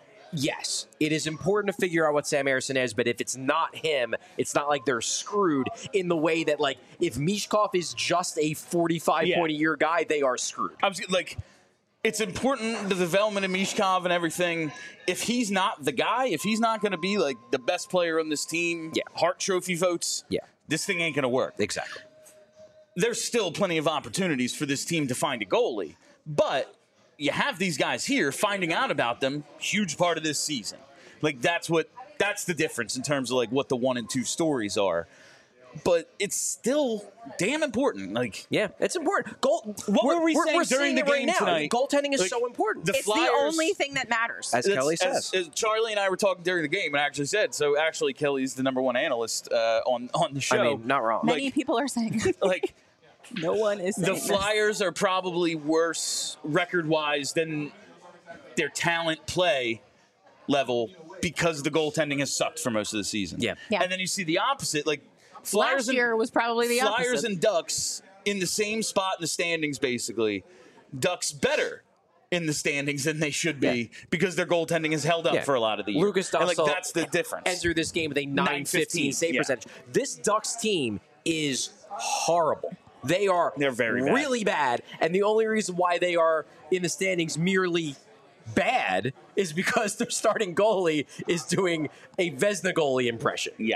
yes, it is important to figure out what Sam Ersson is, but if it's not him, it's not like they're screwed in the way that, like, if Mishkov is just a 45-point-a-year guy, they are screwed. I was like, it's important, the development of Mishkov and everything. If he's not the guy, if he's not going to be like the best player on this team, Hart Trophy votes, this thing ain't going to work. Exactly. There's still plenty of opportunities for this team to find a goalie, but you have these guys here. Finding out about them, huge part of this season. Like that's the difference in terms of like what the 1 and 2 stories are. But it's still damn important. Like, yeah, it's important. What were we saying during the game tonight? Goaltending is so important. It's the only thing that matters. As Kelly says. As Charlie and I were talking during the game, and I actually said, so actually Kelly's the number one analyst on the show. I mean, not wrong. Many people are saying. Like, no one is saying the Flyers are probably worse record-wise than their talent play level because the goaltending has sucked for most of the season. Yeah. And then you see the opposite, like, Last year was probably the opposite. Flyers and Ducks in the same spot in the standings, basically. Ducks better in the standings than they should be because their goaltending has held up for a lot of the year. Lucas Dussel, like, that's the difference. Enter this game with a 9.15 save percentage. This Ducks team is horrible. They're very really bad. And the only reason why they are in the standings merely bad is because their starting goalie is doing a Vezina goalie impression. Yeah.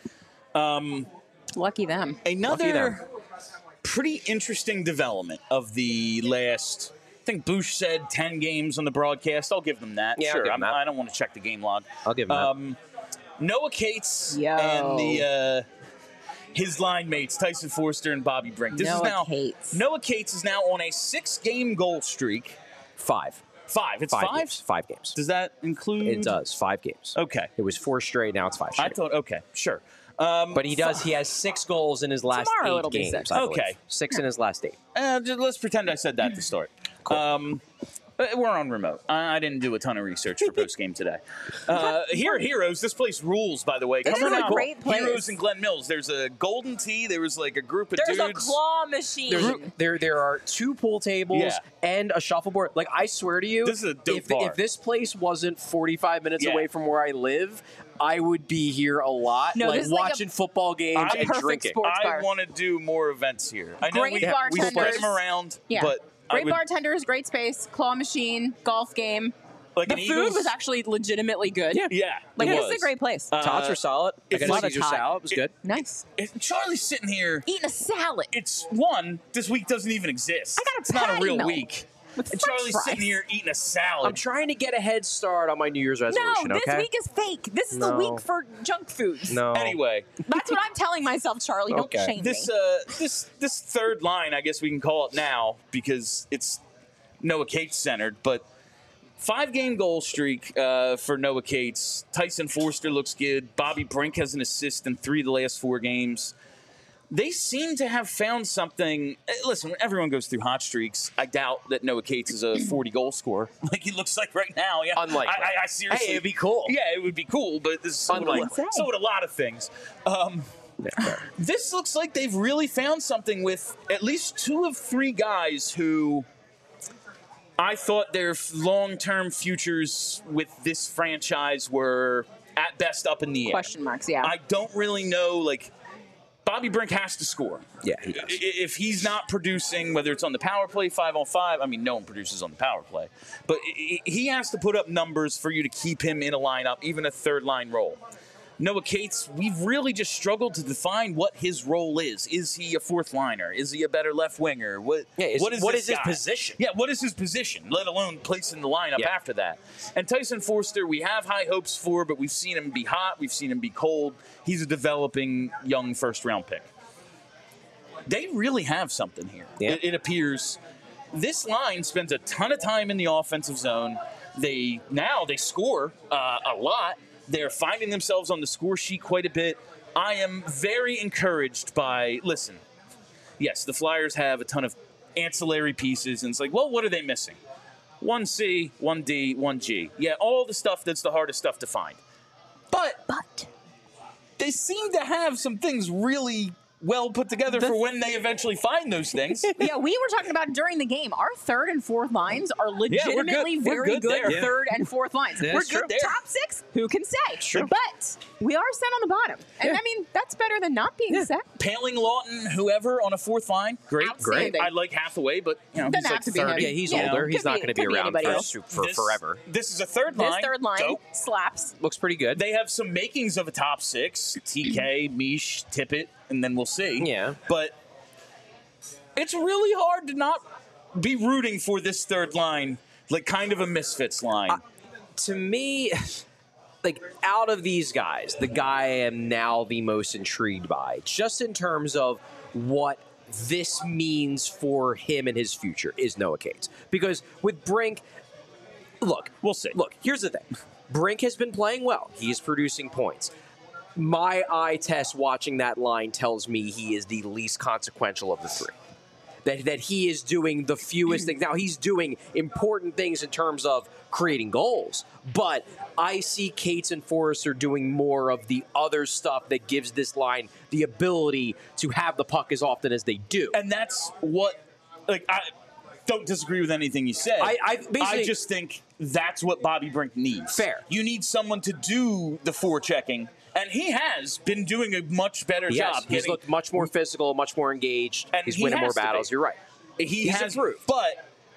Lucky them. Another pretty interesting development of the last, I think Bush said 10 games on the broadcast. I'll give them that. Yeah, sure. I'll give them that. I don't want to check the game log. I'll give him that. Noah Cates and his line mates, Tyson Forster and Bobby Brink. Noah Cates is now on a 6-game goal streak. 5. It's 5? Games. 5 games. Does that include? It does. 5 games. Okay. It was 4 straight. Now it's 5 straight. I thought, okay, sure. But he does. He has 6 goals in his last Tomorrow 8 it'll be games. 6. I believe. Okay. 6 in his last 8. Let's pretend I said that to start. Cool. We're on remote. I didn't do a ton of research for post-game today. Here are Heroes. This place rules, by the way. This is a great place. Heroes in Glen Mills. There's a Golden Tee. There was like a group of There's dudes. a claw machine. There are 2 pool tables and a shuffleboard. Like, I swear to you, this is a dope bar. If this place wasn't 45 minutes Yeah. away from where I live, I would be here a lot, No, like this is like watching football games and perfect drinking. sports bar. I want to do more events here. I know Great we bartenders. spread them around, Yeah. but Great bartenders, great space, claw machine, golf game. like The an food Eagles, was actually legitimately good. yeah. Like, it this was. is a great place. Tots are solid. I if got it's a Caesar hot. salad. It was good. Nice. Charlie's sitting here. Eating a salad. It's one. This week doesn't even exist. I got a It's not a patty real melt week. with And French Charlie's fries. sitting here eating a salad. I'm trying to get a head start on my New Year's resolution. No, this okay? week is fake. This is the No. week for junk foods. No. Anyway, That's what I'm telling myself, Charlie. Don't Okay. shame this me. this third line, I guess we can call it now because it's Noah Cates centered, but 5-game goal streak for Noah Cates. Tyson Forster looks good. Bobby Brink has an assist in 3 of the last 4 games. They seem to have found something. Listen, when everyone goes through hot streaks, I doubt that Noah Cates is a 40-goal scorer like he looks like right now. Yeah, Unlikely. I seriously. Hey, it'd be cool. Yeah, it would be cool, but this is so Unlikely. would a lot of things. This looks like they've really found something with at least 2 of 3 guys who I thought their long-term futures with this franchise were at best up in the air. Question marks, yeah. I don't really know, like, Bobby Brink has to score. Yeah, he does. If he's not producing, whether it's on the power play, 5-on-5, I mean, no one produces on the power play, but he has to put up numbers for you to keep him in a lineup, even a third-line role. Noah Cates, we've really just struggled to define what his role is. Is he a 4th liner? Is he a better left winger? What is his this guy? position? Yeah, what is his position, let alone place in the lineup after that? And Tyson Forster, we have high hopes for, but we've seen him be hot. We've seen him be cold. He's a developing young first-round pick. They really have something here. Yeah. It appears. This line spends a ton of time in the offensive zone. They score a lot. They're finding themselves on the score sheet quite a bit. I am very encouraged by, listen, yes, the Flyers have a ton of ancillary pieces, and it's like, well, what are they missing? 1C, 1D, 1G. Yeah, all the stuff that's the hardest stuff to find. But they seem to have some things really well put together for when they eventually find those things. Yeah, we were talking about during the game. Our 3rd and 4th lines are legitimately We're very good good there. 3rd and 4th lines. Yeah, We're that's true. good there. Top 6, who can say? True. But we are set on the bottom. And I mean, that's better than not being set. Paling, Lawton, whoever on a 4th line, great. Outstanding. I like Hathaway, but Doesn't he's have like to be 30. him. Yeah, he's Yeah. older. He's Could not be- going to be could be around anybody else. for forever. This is a third This line. 3rd line Dope. slaps. Looks pretty good. They have some makings of a top 6. TK, Mish, Tippett, and then we'll see. Yeah. But it's really hard to not be rooting for this third line, like kind of a misfits line. To me, like, out of these guys, the guy I am now the most intrigued by, just in terms of what this means for him and his future, is Noah Cates. Because with Brink, look, We'll see. Look, here's the thing. Brink has been playing well. He's producing points. My eye test watching that line tells me he is the least consequential of the 3. That he is doing the fewest things. Now, he's doing important things in terms of creating goals, but I see Cates and Forrester doing more of the other stuff that gives this line the ability to have the puck as often as they do. And that's what, like, I don't disagree with anything you said. I just think that's what Bobby Brink needs. Fair. You need someone to do the forechecking, and he has been doing a much better job. He's looked much more physical, much more engaged. And He's he winning more has to battles. be. You're right. He's improved. But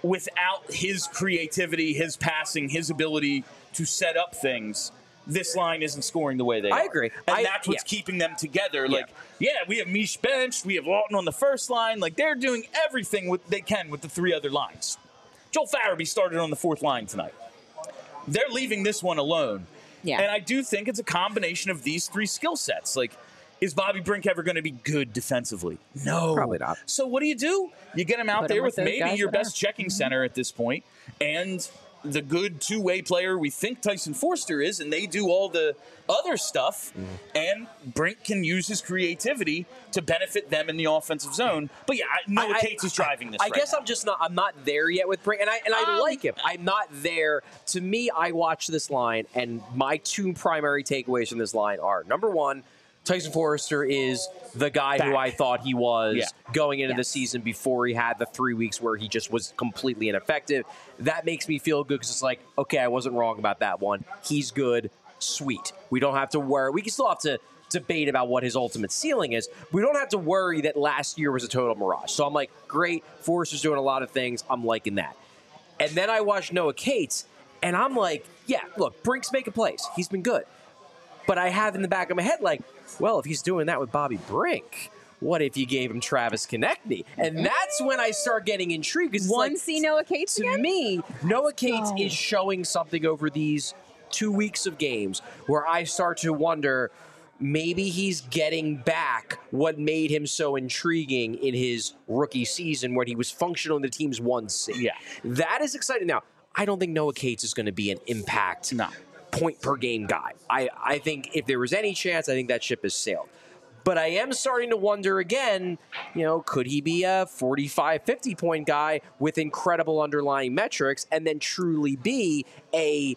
without his creativity, his passing, his ability to set up things, this line isn't scoring the way they are. I agree. And that's what's keeping them together. Yeah. Like, we have Mish benched. We have Lawton on the first line. Like, they're doing everything they can with the 3 other lines. Joel Farabee started on the 4th line tonight. They're leaving this one alone. Yeah. And I do think it's a combination of these 3 skill sets. Like, is Bobby Brink ever going to be good defensively? No. Probably not. So what do? You get him out there with maybe your best checking center at this point, and the good 2-way player we think Tyson Forster is, and they do all the other stuff, and Brink can use his creativity to benefit them in the offensive zone. But Noah Cates is driving this. I guess I'm not there yet with Brink, and I like him. I'm not there. To me, I watch this line, and my 2 primary takeaways from this line are, number 1, Tyson Forster is the guy who I thought he was going into the season before he had the 3 weeks where he just was completely ineffective. That makes me feel good because it's like, okay, I wasn't wrong about that one. He's good. Sweet. We don't have to worry. We can still have to debate about what his ultimate ceiling is. We don't have to worry that last year was a total mirage. So I'm like, great. Forster's doing a lot of things. I'm liking that. And then I watched Noah Cates, and I'm like, look, Brink's making plays. He's been good. But I have in the back of my head, like, well, if he's doing that with Bobby Brink, what if you gave him Travis Konechny? And that's when I start getting intrigued. See Noah Cates to again? me, Noah Cates is showing something over these 2 weeks of games where I start to wonder, maybe he's getting back what made him so intriguing in his rookie season when he was functional in the team's 1C. Yeah. That is exciting. Now, I don't think Noah Cates is going to be an impact point per game guy. I think if there was any chance, I think that ship has sailed. But I am starting to wonder again, could he be a 45, 50-point guy with incredible underlying metrics and then truly be a,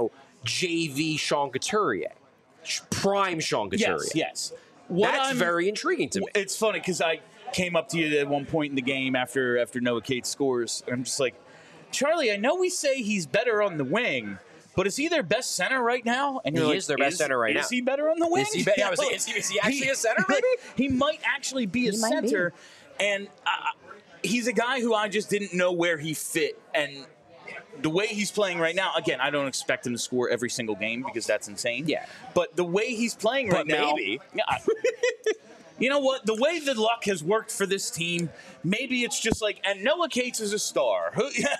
JV Sean Couturier? Prime Sean Couturier. Yes. That's very intriguing to me. It's funny because I came up to you at one point in the game after Noah Cates scores, and I'm just like, Charlie, I know we say he's better on the wing, but is he their best center right now? And he is their best center right now. Is he better on the wing? Is he actually a center, maybe? He might actually be a center. And he's a guy who I just didn't know where he fit. And the way he's playing right now, again, I don't expect him to score every single game because that's insane. Yeah. But the way he's playing right now. Maybe. You know what? The way the luck has worked for this team, maybe it's just like, and Noah Cates is a star.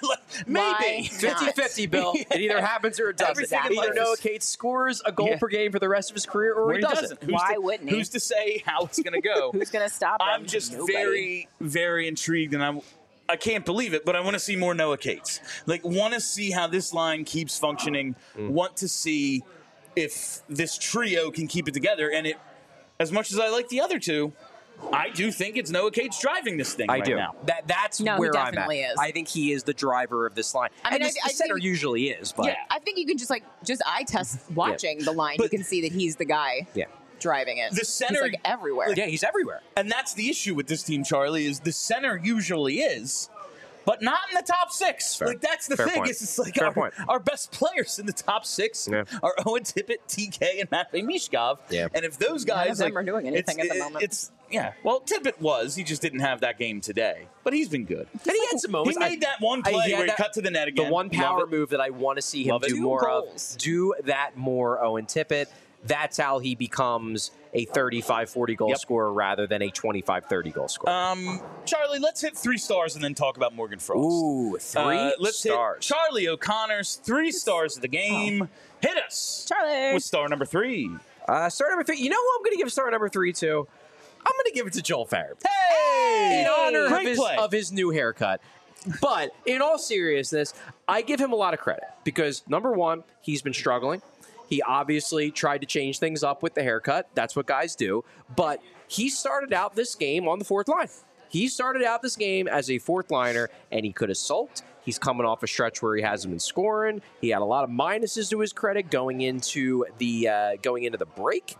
Maybe. 50-50, Bill. It either happens or it doesn't. Either Noah Cates scores a goal per game for the rest of his career or he doesn't. Why wouldn't he? Who's to say how it's going to go? Who's going to stop him? I'm just very, very intrigued, and I can't believe it, but I want to see more Noah Cates. Want to see how this line keeps functioning. Want to see if this trio can keep it together, and as much as I like the other 2, I do think it's Noah Cates driving this thing right now. That's where I'm at. Is. I think he is the driver of this line. I mean, the center usually is, but I think you can just eye test watching the line. You can see that he's the guy driving it. The center he's everywhere. He's everywhere. And that's the issue with this team, Charlie, is the center usually is, but not in the top 6. Fair. That's the thing. Point. It's like our best players in the top 6 are Owen Tippett, TK, and Matvei Mishkov. Yeah. And if those guys none of them are doing anything at the moment. Well, Tippett was. He just didn't have that game today. But he's been good. And he had some moments. He made that one play where he cut to the net again. The one power move that I want to see him do more of. Do that more, Owen Tippett. That's how he becomes a 35-40 goal scorer rather than a 25-30 goal scorer. Charlie, let's hit 3 stars and then talk about Morgan Frost. Ooh, 3 let's stars. Hit Charlie O'Connor's 3 stars of the game. Hit us, Charlie, with star number 3. Star number 3. You know who I'm going to give star number 3 to? I'm going to give it to Joel Farabee. Hey! In honor of his new haircut. But in all seriousness, I give him a lot of credit because, number 1, he's been struggling. He obviously tried to change things up with the haircut. That's what guys do. But he started out this game on the 4th line. He started out this game as a 4th liner, and he could have sulked. He's coming off a stretch where he hasn't been scoring. He had a lot of minuses to his credit going into the break.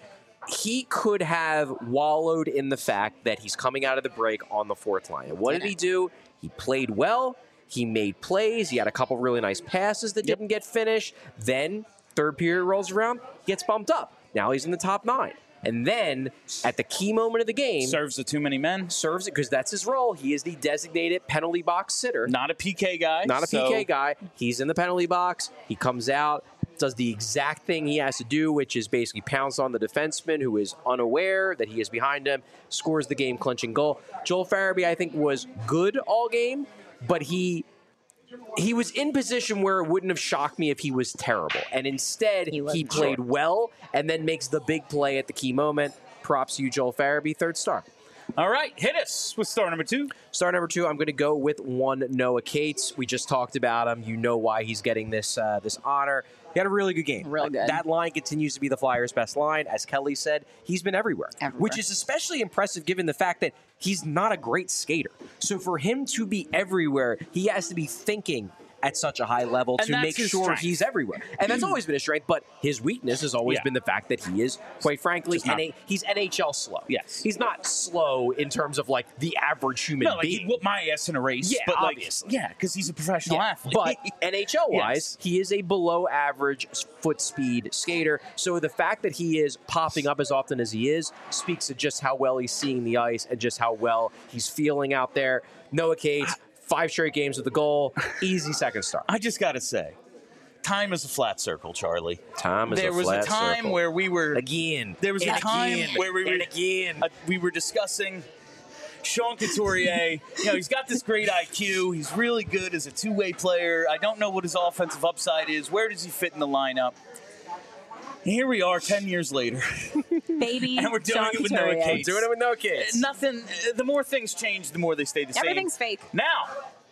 He could have wallowed in the fact that he's coming out of the break on the 4th line. And what did he do? He played well. He made plays. He had a couple really nice passes that didn't get finished. Then 3rd period rolls around, gets bumped up. Now he's in the top 9. And then at the key moment of the game, serves the too many men. Serves it because that's his role. He is the designated penalty box sitter. Not a PK guy. Not a PK guy. He's in the penalty box. He comes out, does the exact thing he has to do, which is basically pounce on the defenseman who is unaware that he is behind him, scores the game-clinching goal. Joel Farabee, I think, was good all game, but he was in position where it wouldn't have shocked me if he was terrible. And instead, he played well and then makes the big play at the key moment. Props to you, Joel Farabee, 3rd star. All right, hit us with star number 2. Star number 2, I'm going to go with one Noah Cates. We just talked about him. You know why he's getting this honor. He had a really good game. Real good. That line continues to be the Flyers' best line. As Kelly said, he's been everywhere, which is especially impressive given the fact that he's not a great skater. So for him to be everywhere, he has to be thinking at such a high level to make sure he's everywhere. And that's always been his strength, but his weakness has always been the fact that he is, quite frankly, he's NHL slow. Yes. He's not slow in terms of like the average human being. He whooped my ass in a race. Yeah, but obviously. Because he's a professional athlete. But NHL-wise, he is a below-average foot speed skater. So the fact that he is popping up as often as he is speaks to just how well he's seeing the ice and just how well he's feeling out there. Noah Cates, 5 straight games with a goal. Easy 2nd star. I just got to say, time is a flat circle, Charlie. Time is a flat circle. There was a time where we were... Again. There was a time where we were discussing Sean Couturier. He's got this great IQ. He's really good as a two-way player. I don't know what his offensive upside is. Where does he fit in the lineup? And here we are 10 years later. Baby, and we're doing it with Noah Cates. Doing it with Noah Cates. Nothing. The more things change, the more they stay the same. Everything's fake. Now,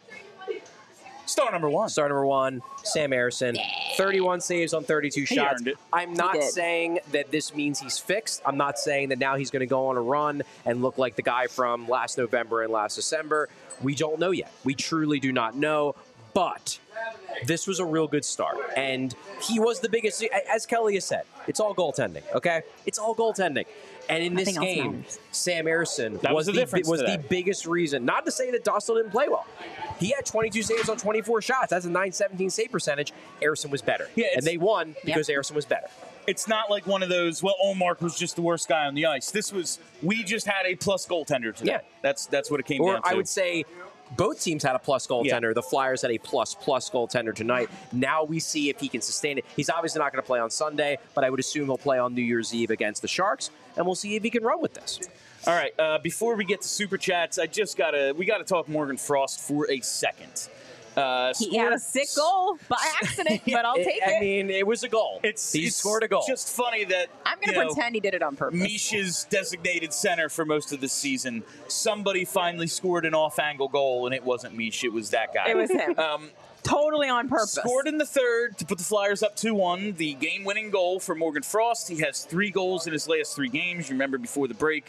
star number 1. Star number 1, Sam Ersson. 31 saves on 32 shots. Earned it. I'm not saying that this means he's fixed. I'm not saying that now he's going to go on a run and look like the guy from last November and last December. We don't know yet. We truly do not know. But this was a real good start. And he was the biggest, as Kelly has said, it's all goaltending, okay? It's all goaltending. And in this game, Sam Ersson was the biggest reason. Not to say that Dostal didn't play well. He had 22 saves on 24 shots. That's a .917 save percentage. Ersson was better. Yeah, and they won because Ersson was better. It's not like one of those, Olmark was just the worst guy on the ice. We just had a plus goaltender today. Yeah. That's what it came down to. Or I would say both teams had a plus goaltender. Yeah. The Flyers had a plus goaltender tonight. Now we see if he can sustain it. He's obviously not going to play on Sunday, but I would assume he'll play on New Year's Eve against the Sharks, and we'll see if he can run with this. All right, before we get to Super Chats, we got to talk Morgan Frost for a second. He had a sick goal by accident, but I'll take it. I mean, it was a goal. He scored a goal. It's just funny that I'm going to pretend he did it on purpose. Misha's designated center for most of the season. Somebody finally scored an off-angle goal, and it wasn't Misha. It was that guy. It was him. Totally on purpose. Scored in the 3rd to put the Flyers up 2-1. The game-winning goal for Morgan Frost. He has 3 goals in his last 3 games. You remember before the break,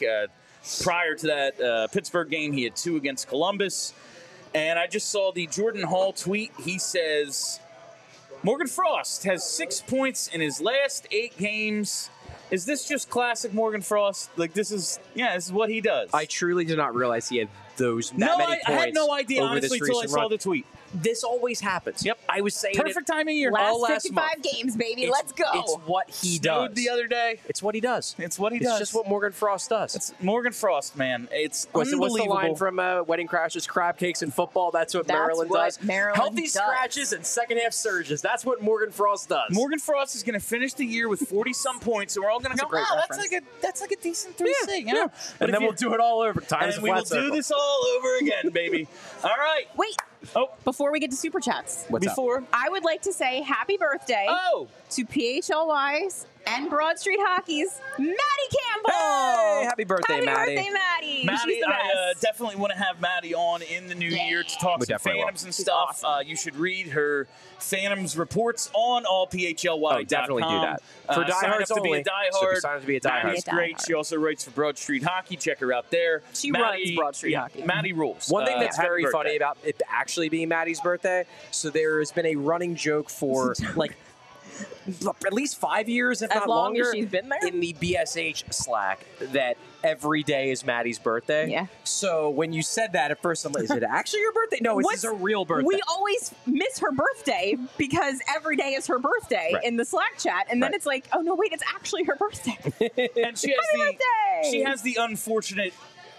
prior to that Pittsburgh game, he had 2 against Columbus. And I just saw the Jordan Hall tweet. He says, Morgan Frost has 6 points in his last 8 games. Is this just classic Morgan Frost? This is what he does. I truly did not realize he had many points. I had no idea, honestly, until I saw the tweet. This always happens. Yep. I was saying perfect time of year. Last 55 games, baby. Let's go. It's what he does. The other day. It's what he does. It's what he does. It's just what Morgan Frost does. It's Morgan Frost, man. It's unbelievable. What's the line from Wedding Crashers? Crab cakes and football. That's what Maryland does. Healthy scratches and second-half surges. That's what Morgan Frost does. Morgan Frost is going to finish the year with 40-some points, and we're all going to go, that's like a decent 3-6. Yeah. And then we'll do it all over. And we will do this all over again, baby. All right. Wait. Before we get to Super Chats. I would like to say happy birthday to PHLY's and Broad Street Hockey's Maddie Campbell. Hey, happy birthday, Maddie. Happy birthday, Maddie. Maddie, I definitely want to have Maddie on in the new year to talk some Phantoms and stuff. Awesome. You should read her Phantoms reports on allphly.com. Definitely do that. For diehards only. Sign up to be a diehard. Maddie's great. She also writes for Broad Street Hockey. Check her out there. She runs Broad Street Hockey. Maddie rules. One thing that's very funny about it actually being Maddie's birthday, so there has been a running joke for at least 5 years, if As not long as longer, she's been there? in the BSH Slack that every day is Maddie's birthday. Yeah. So when you said that at first, I'm like, is it actually your birthday? No, it's a real birthday. We always miss her birthday because every day is her birthday in the Slack chat, and then it's like, oh no, wait, it's actually her birthday. And she has the unfortunate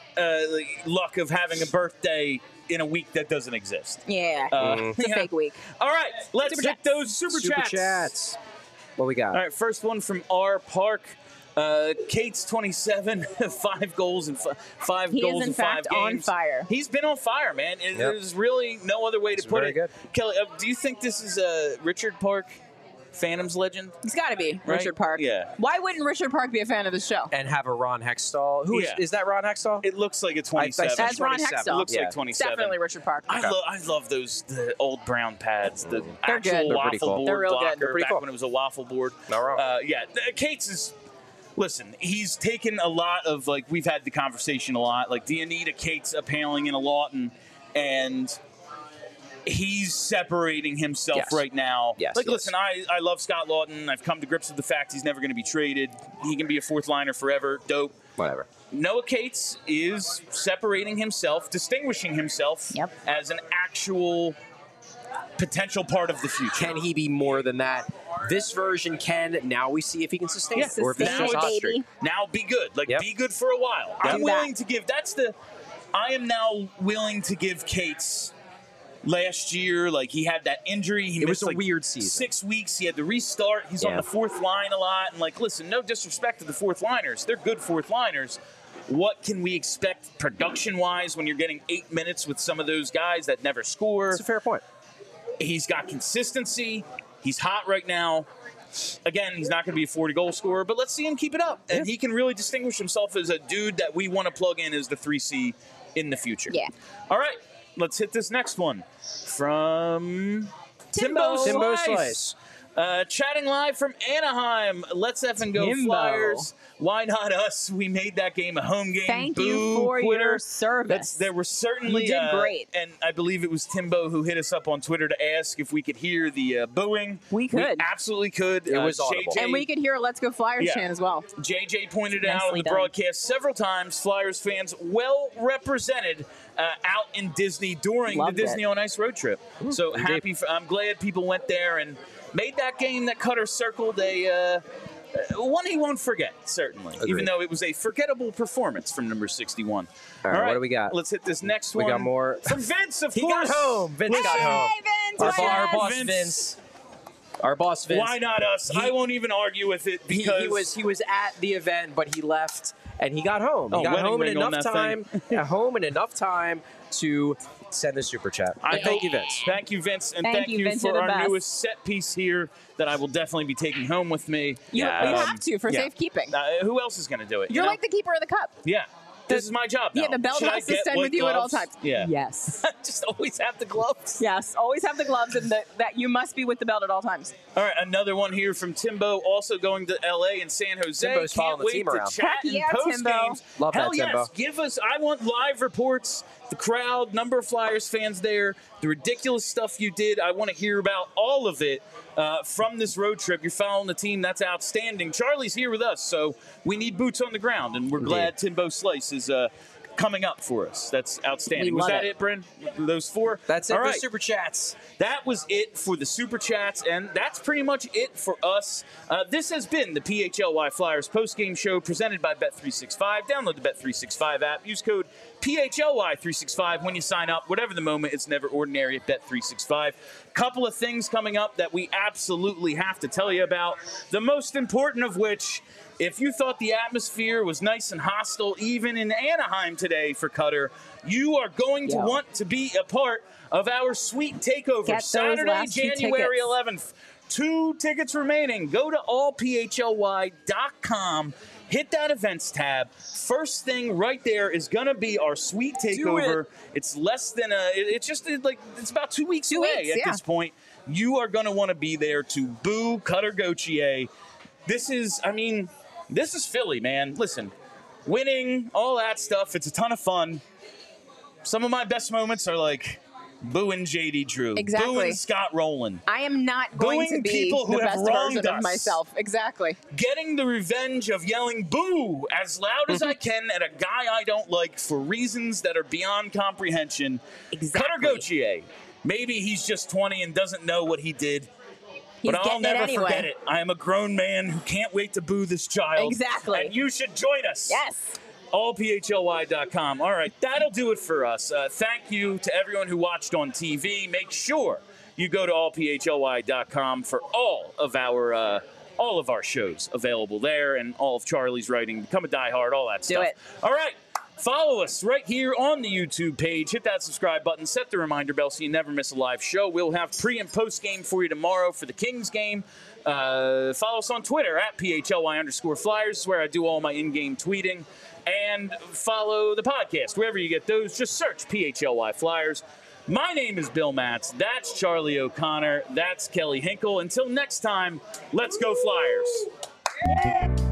luck of having a birthday in a week that doesn't exist. Yeah, it's a fake week. All right, let's hit those super chats. What we got? All right, first one from R. Park. Kate's 27, 5 goals and 5 He goals is, in in 5 fact, games. on fire. He's been on fire, man. There's really no other way to put it. Good. Kelly, do you think this is Richard Park, Phantom's legend? It's got to be Right? Richard Park. Yeah. Why wouldn't Richard Park be a fan of the show? And have a Ron Hextall. Who is that? Ron Hextall? It looks like a 27. That's Ron Hextall. It looks like 27. Definitely Richard Park. I love the old brown pads, the They're good. actual They're waffle cool. board They're real good. blocker They're pretty back cool. when it was a waffle board. Not wrong. Kate's is. Listen, he's taken a lot of, like, we've had the conversation a lot. Like, do you need a Kate's appealing in a Lawton? And he's separating himself right now. Listen, I love Scott Lawton. I've come to grips with the fact he's never going to be traded. He can be a fourth liner forever. Dope. Whatever. Noah Cates is separating himself, distinguishing himself as an actual potential part of the future. Can he be more than that? This version can. Now we see if he can sustain it. Or if it's Sustain just it, hot streak. Now be good. Be good for a while. I'm willing to give. I am now willing to give Cates. Last year, he had that injury. It was a weird season. 6 weeks. He had to restart. He's on the fourth line a lot. And, listen, no disrespect to the fourth liners. They're good fourth liners. What can we expect production-wise when you're getting 8 minutes with some of those guys that never score? That's a fair point. He's got consistency. He's hot right now. Again, he's not going to be a 40-goal scorer, but let's see him keep it up. And he can really distinguish himself as a dude that we want to plug in as the 3C in the future. Yeah. All right, let's hit this next one from Timbo Slice. Chatting live from Anaheim. Let's effing go Timbo. Flyers. Why not us? We made that game a home game. Thank you for your service. There were certainly You did great. And I believe it was Timbo who hit us up on Twitter to ask if we could hear the booing. We could. We absolutely could. It was audible. And we could hear a Let's Go Flyers chant as well. JJ pointed out on Nicely the done. broadcast several times, Flyers fans well represented out in Disney during Loved the Disney it. on Ice road trip. So Indeed. I'm glad people went there and made that game that Cutter circled one he won't forget, certainly. Agreed. Even though it was a forgettable performance from number 61. All right, what do we got? Let's hit this next one. We got more. From Vince, of He course. got home. Vince got home. Vince, Our boss Vince. Vince. Our boss Vince. Why not us? I won't even argue with it because he was at the event, but he left and he got home. He got wedding home in ring on enough that time. Home in enough time to send the super chat. Thank you, Vince. Thank you, Vince, and Thank thank you, you Vince, for you're the our best. newest set piece here that I will definitely be taking home with me. You have to for safekeeping. Who else is going to do it? You're you know? like the keeper of the cup. Yeah. This is my job now. Yeah, the belt Should I has to get stand white with you at all gloves? times. Yeah. Yes. Just always have the gloves. Yes. Always have the gloves and that you must be with the belt at all times. All right, another one here from Timbo, also going to LA and San Jose. Timbo's following Can't the wait team to around. chat Heck and yeah, post Timbo. games. Love that, Hell yes, Timbo. I want live reports, the crowd, number of Flyers fans there, the ridiculous stuff you did. I want to hear about all of it from this road trip. You're following the team. That's outstanding. Charlie's here with us, so we need boots on the ground, and we're glad Timbo Slice is coming up for us. That's outstanding. We Was love that it. it, Bryn? Those four? That's it All for right. super chats. That was it for the Super Chats, and that's pretty much it for us. This has been the PHLY Flyers postgame show presented by Bet365. Download the Bet365 app. Use code PHLY365 when you sign up. Whatever the moment, it's never ordinary at Bet365. Couple of things coming up that we absolutely have to tell you about. The most important of which, if you thought the atmosphere was nice and hostile, even in Anaheim today for Cutter, you are going to want to be a part of our sweet takeover. Get those Saturday, last two January tickets. 11th. 2 tickets remaining. Go to allphly.com. Hit that events tab. First thing right there is going to be our sweet takeover. It's less than it's about 2 weeks away at this point. You are going to want to be there to boo Cutter Gauthier. This is Philly, man. Listen, winning, all that stuff, it's a ton of fun. Some of my best moments are Booing JD Drew. Exactly. Booing Scott Rowland. I am not going Booing to be people who the have best wronged version us. of myself. Exactly. Getting the revenge of yelling boo as loud as I can at a guy I don't like for reasons that are beyond comprehension. Exactly. Cutter Gauthier. Maybe he's just 20 and doesn't know what he did. He's But I'll never anyway. forget it. I am a grown man who can't wait to boo this child. Exactly. And you should join us. Yes. allphly.com. All right, that'll do it for us. Thank you to everyone who watched on TV. Make sure you go to allphly.com for all of our shows available there, and all of Charlie's writing. Become a diehard, all that stuff. Do it. All right. Follow us right here on the YouTube page. Hit that subscribe button. Set the reminder bell so you never miss a live show. We'll have pre- and post-game for you tomorrow for the Kings game. Follow us on Twitter at @PHLY_Flyers. Is where I do all my in-game tweeting. And follow the podcast. Wherever you get those, just search PHLY Flyers. My name is Bill Matz. That's Charlie O'Connor. That's Kelly Hinkle. Until next time, let's go Flyers.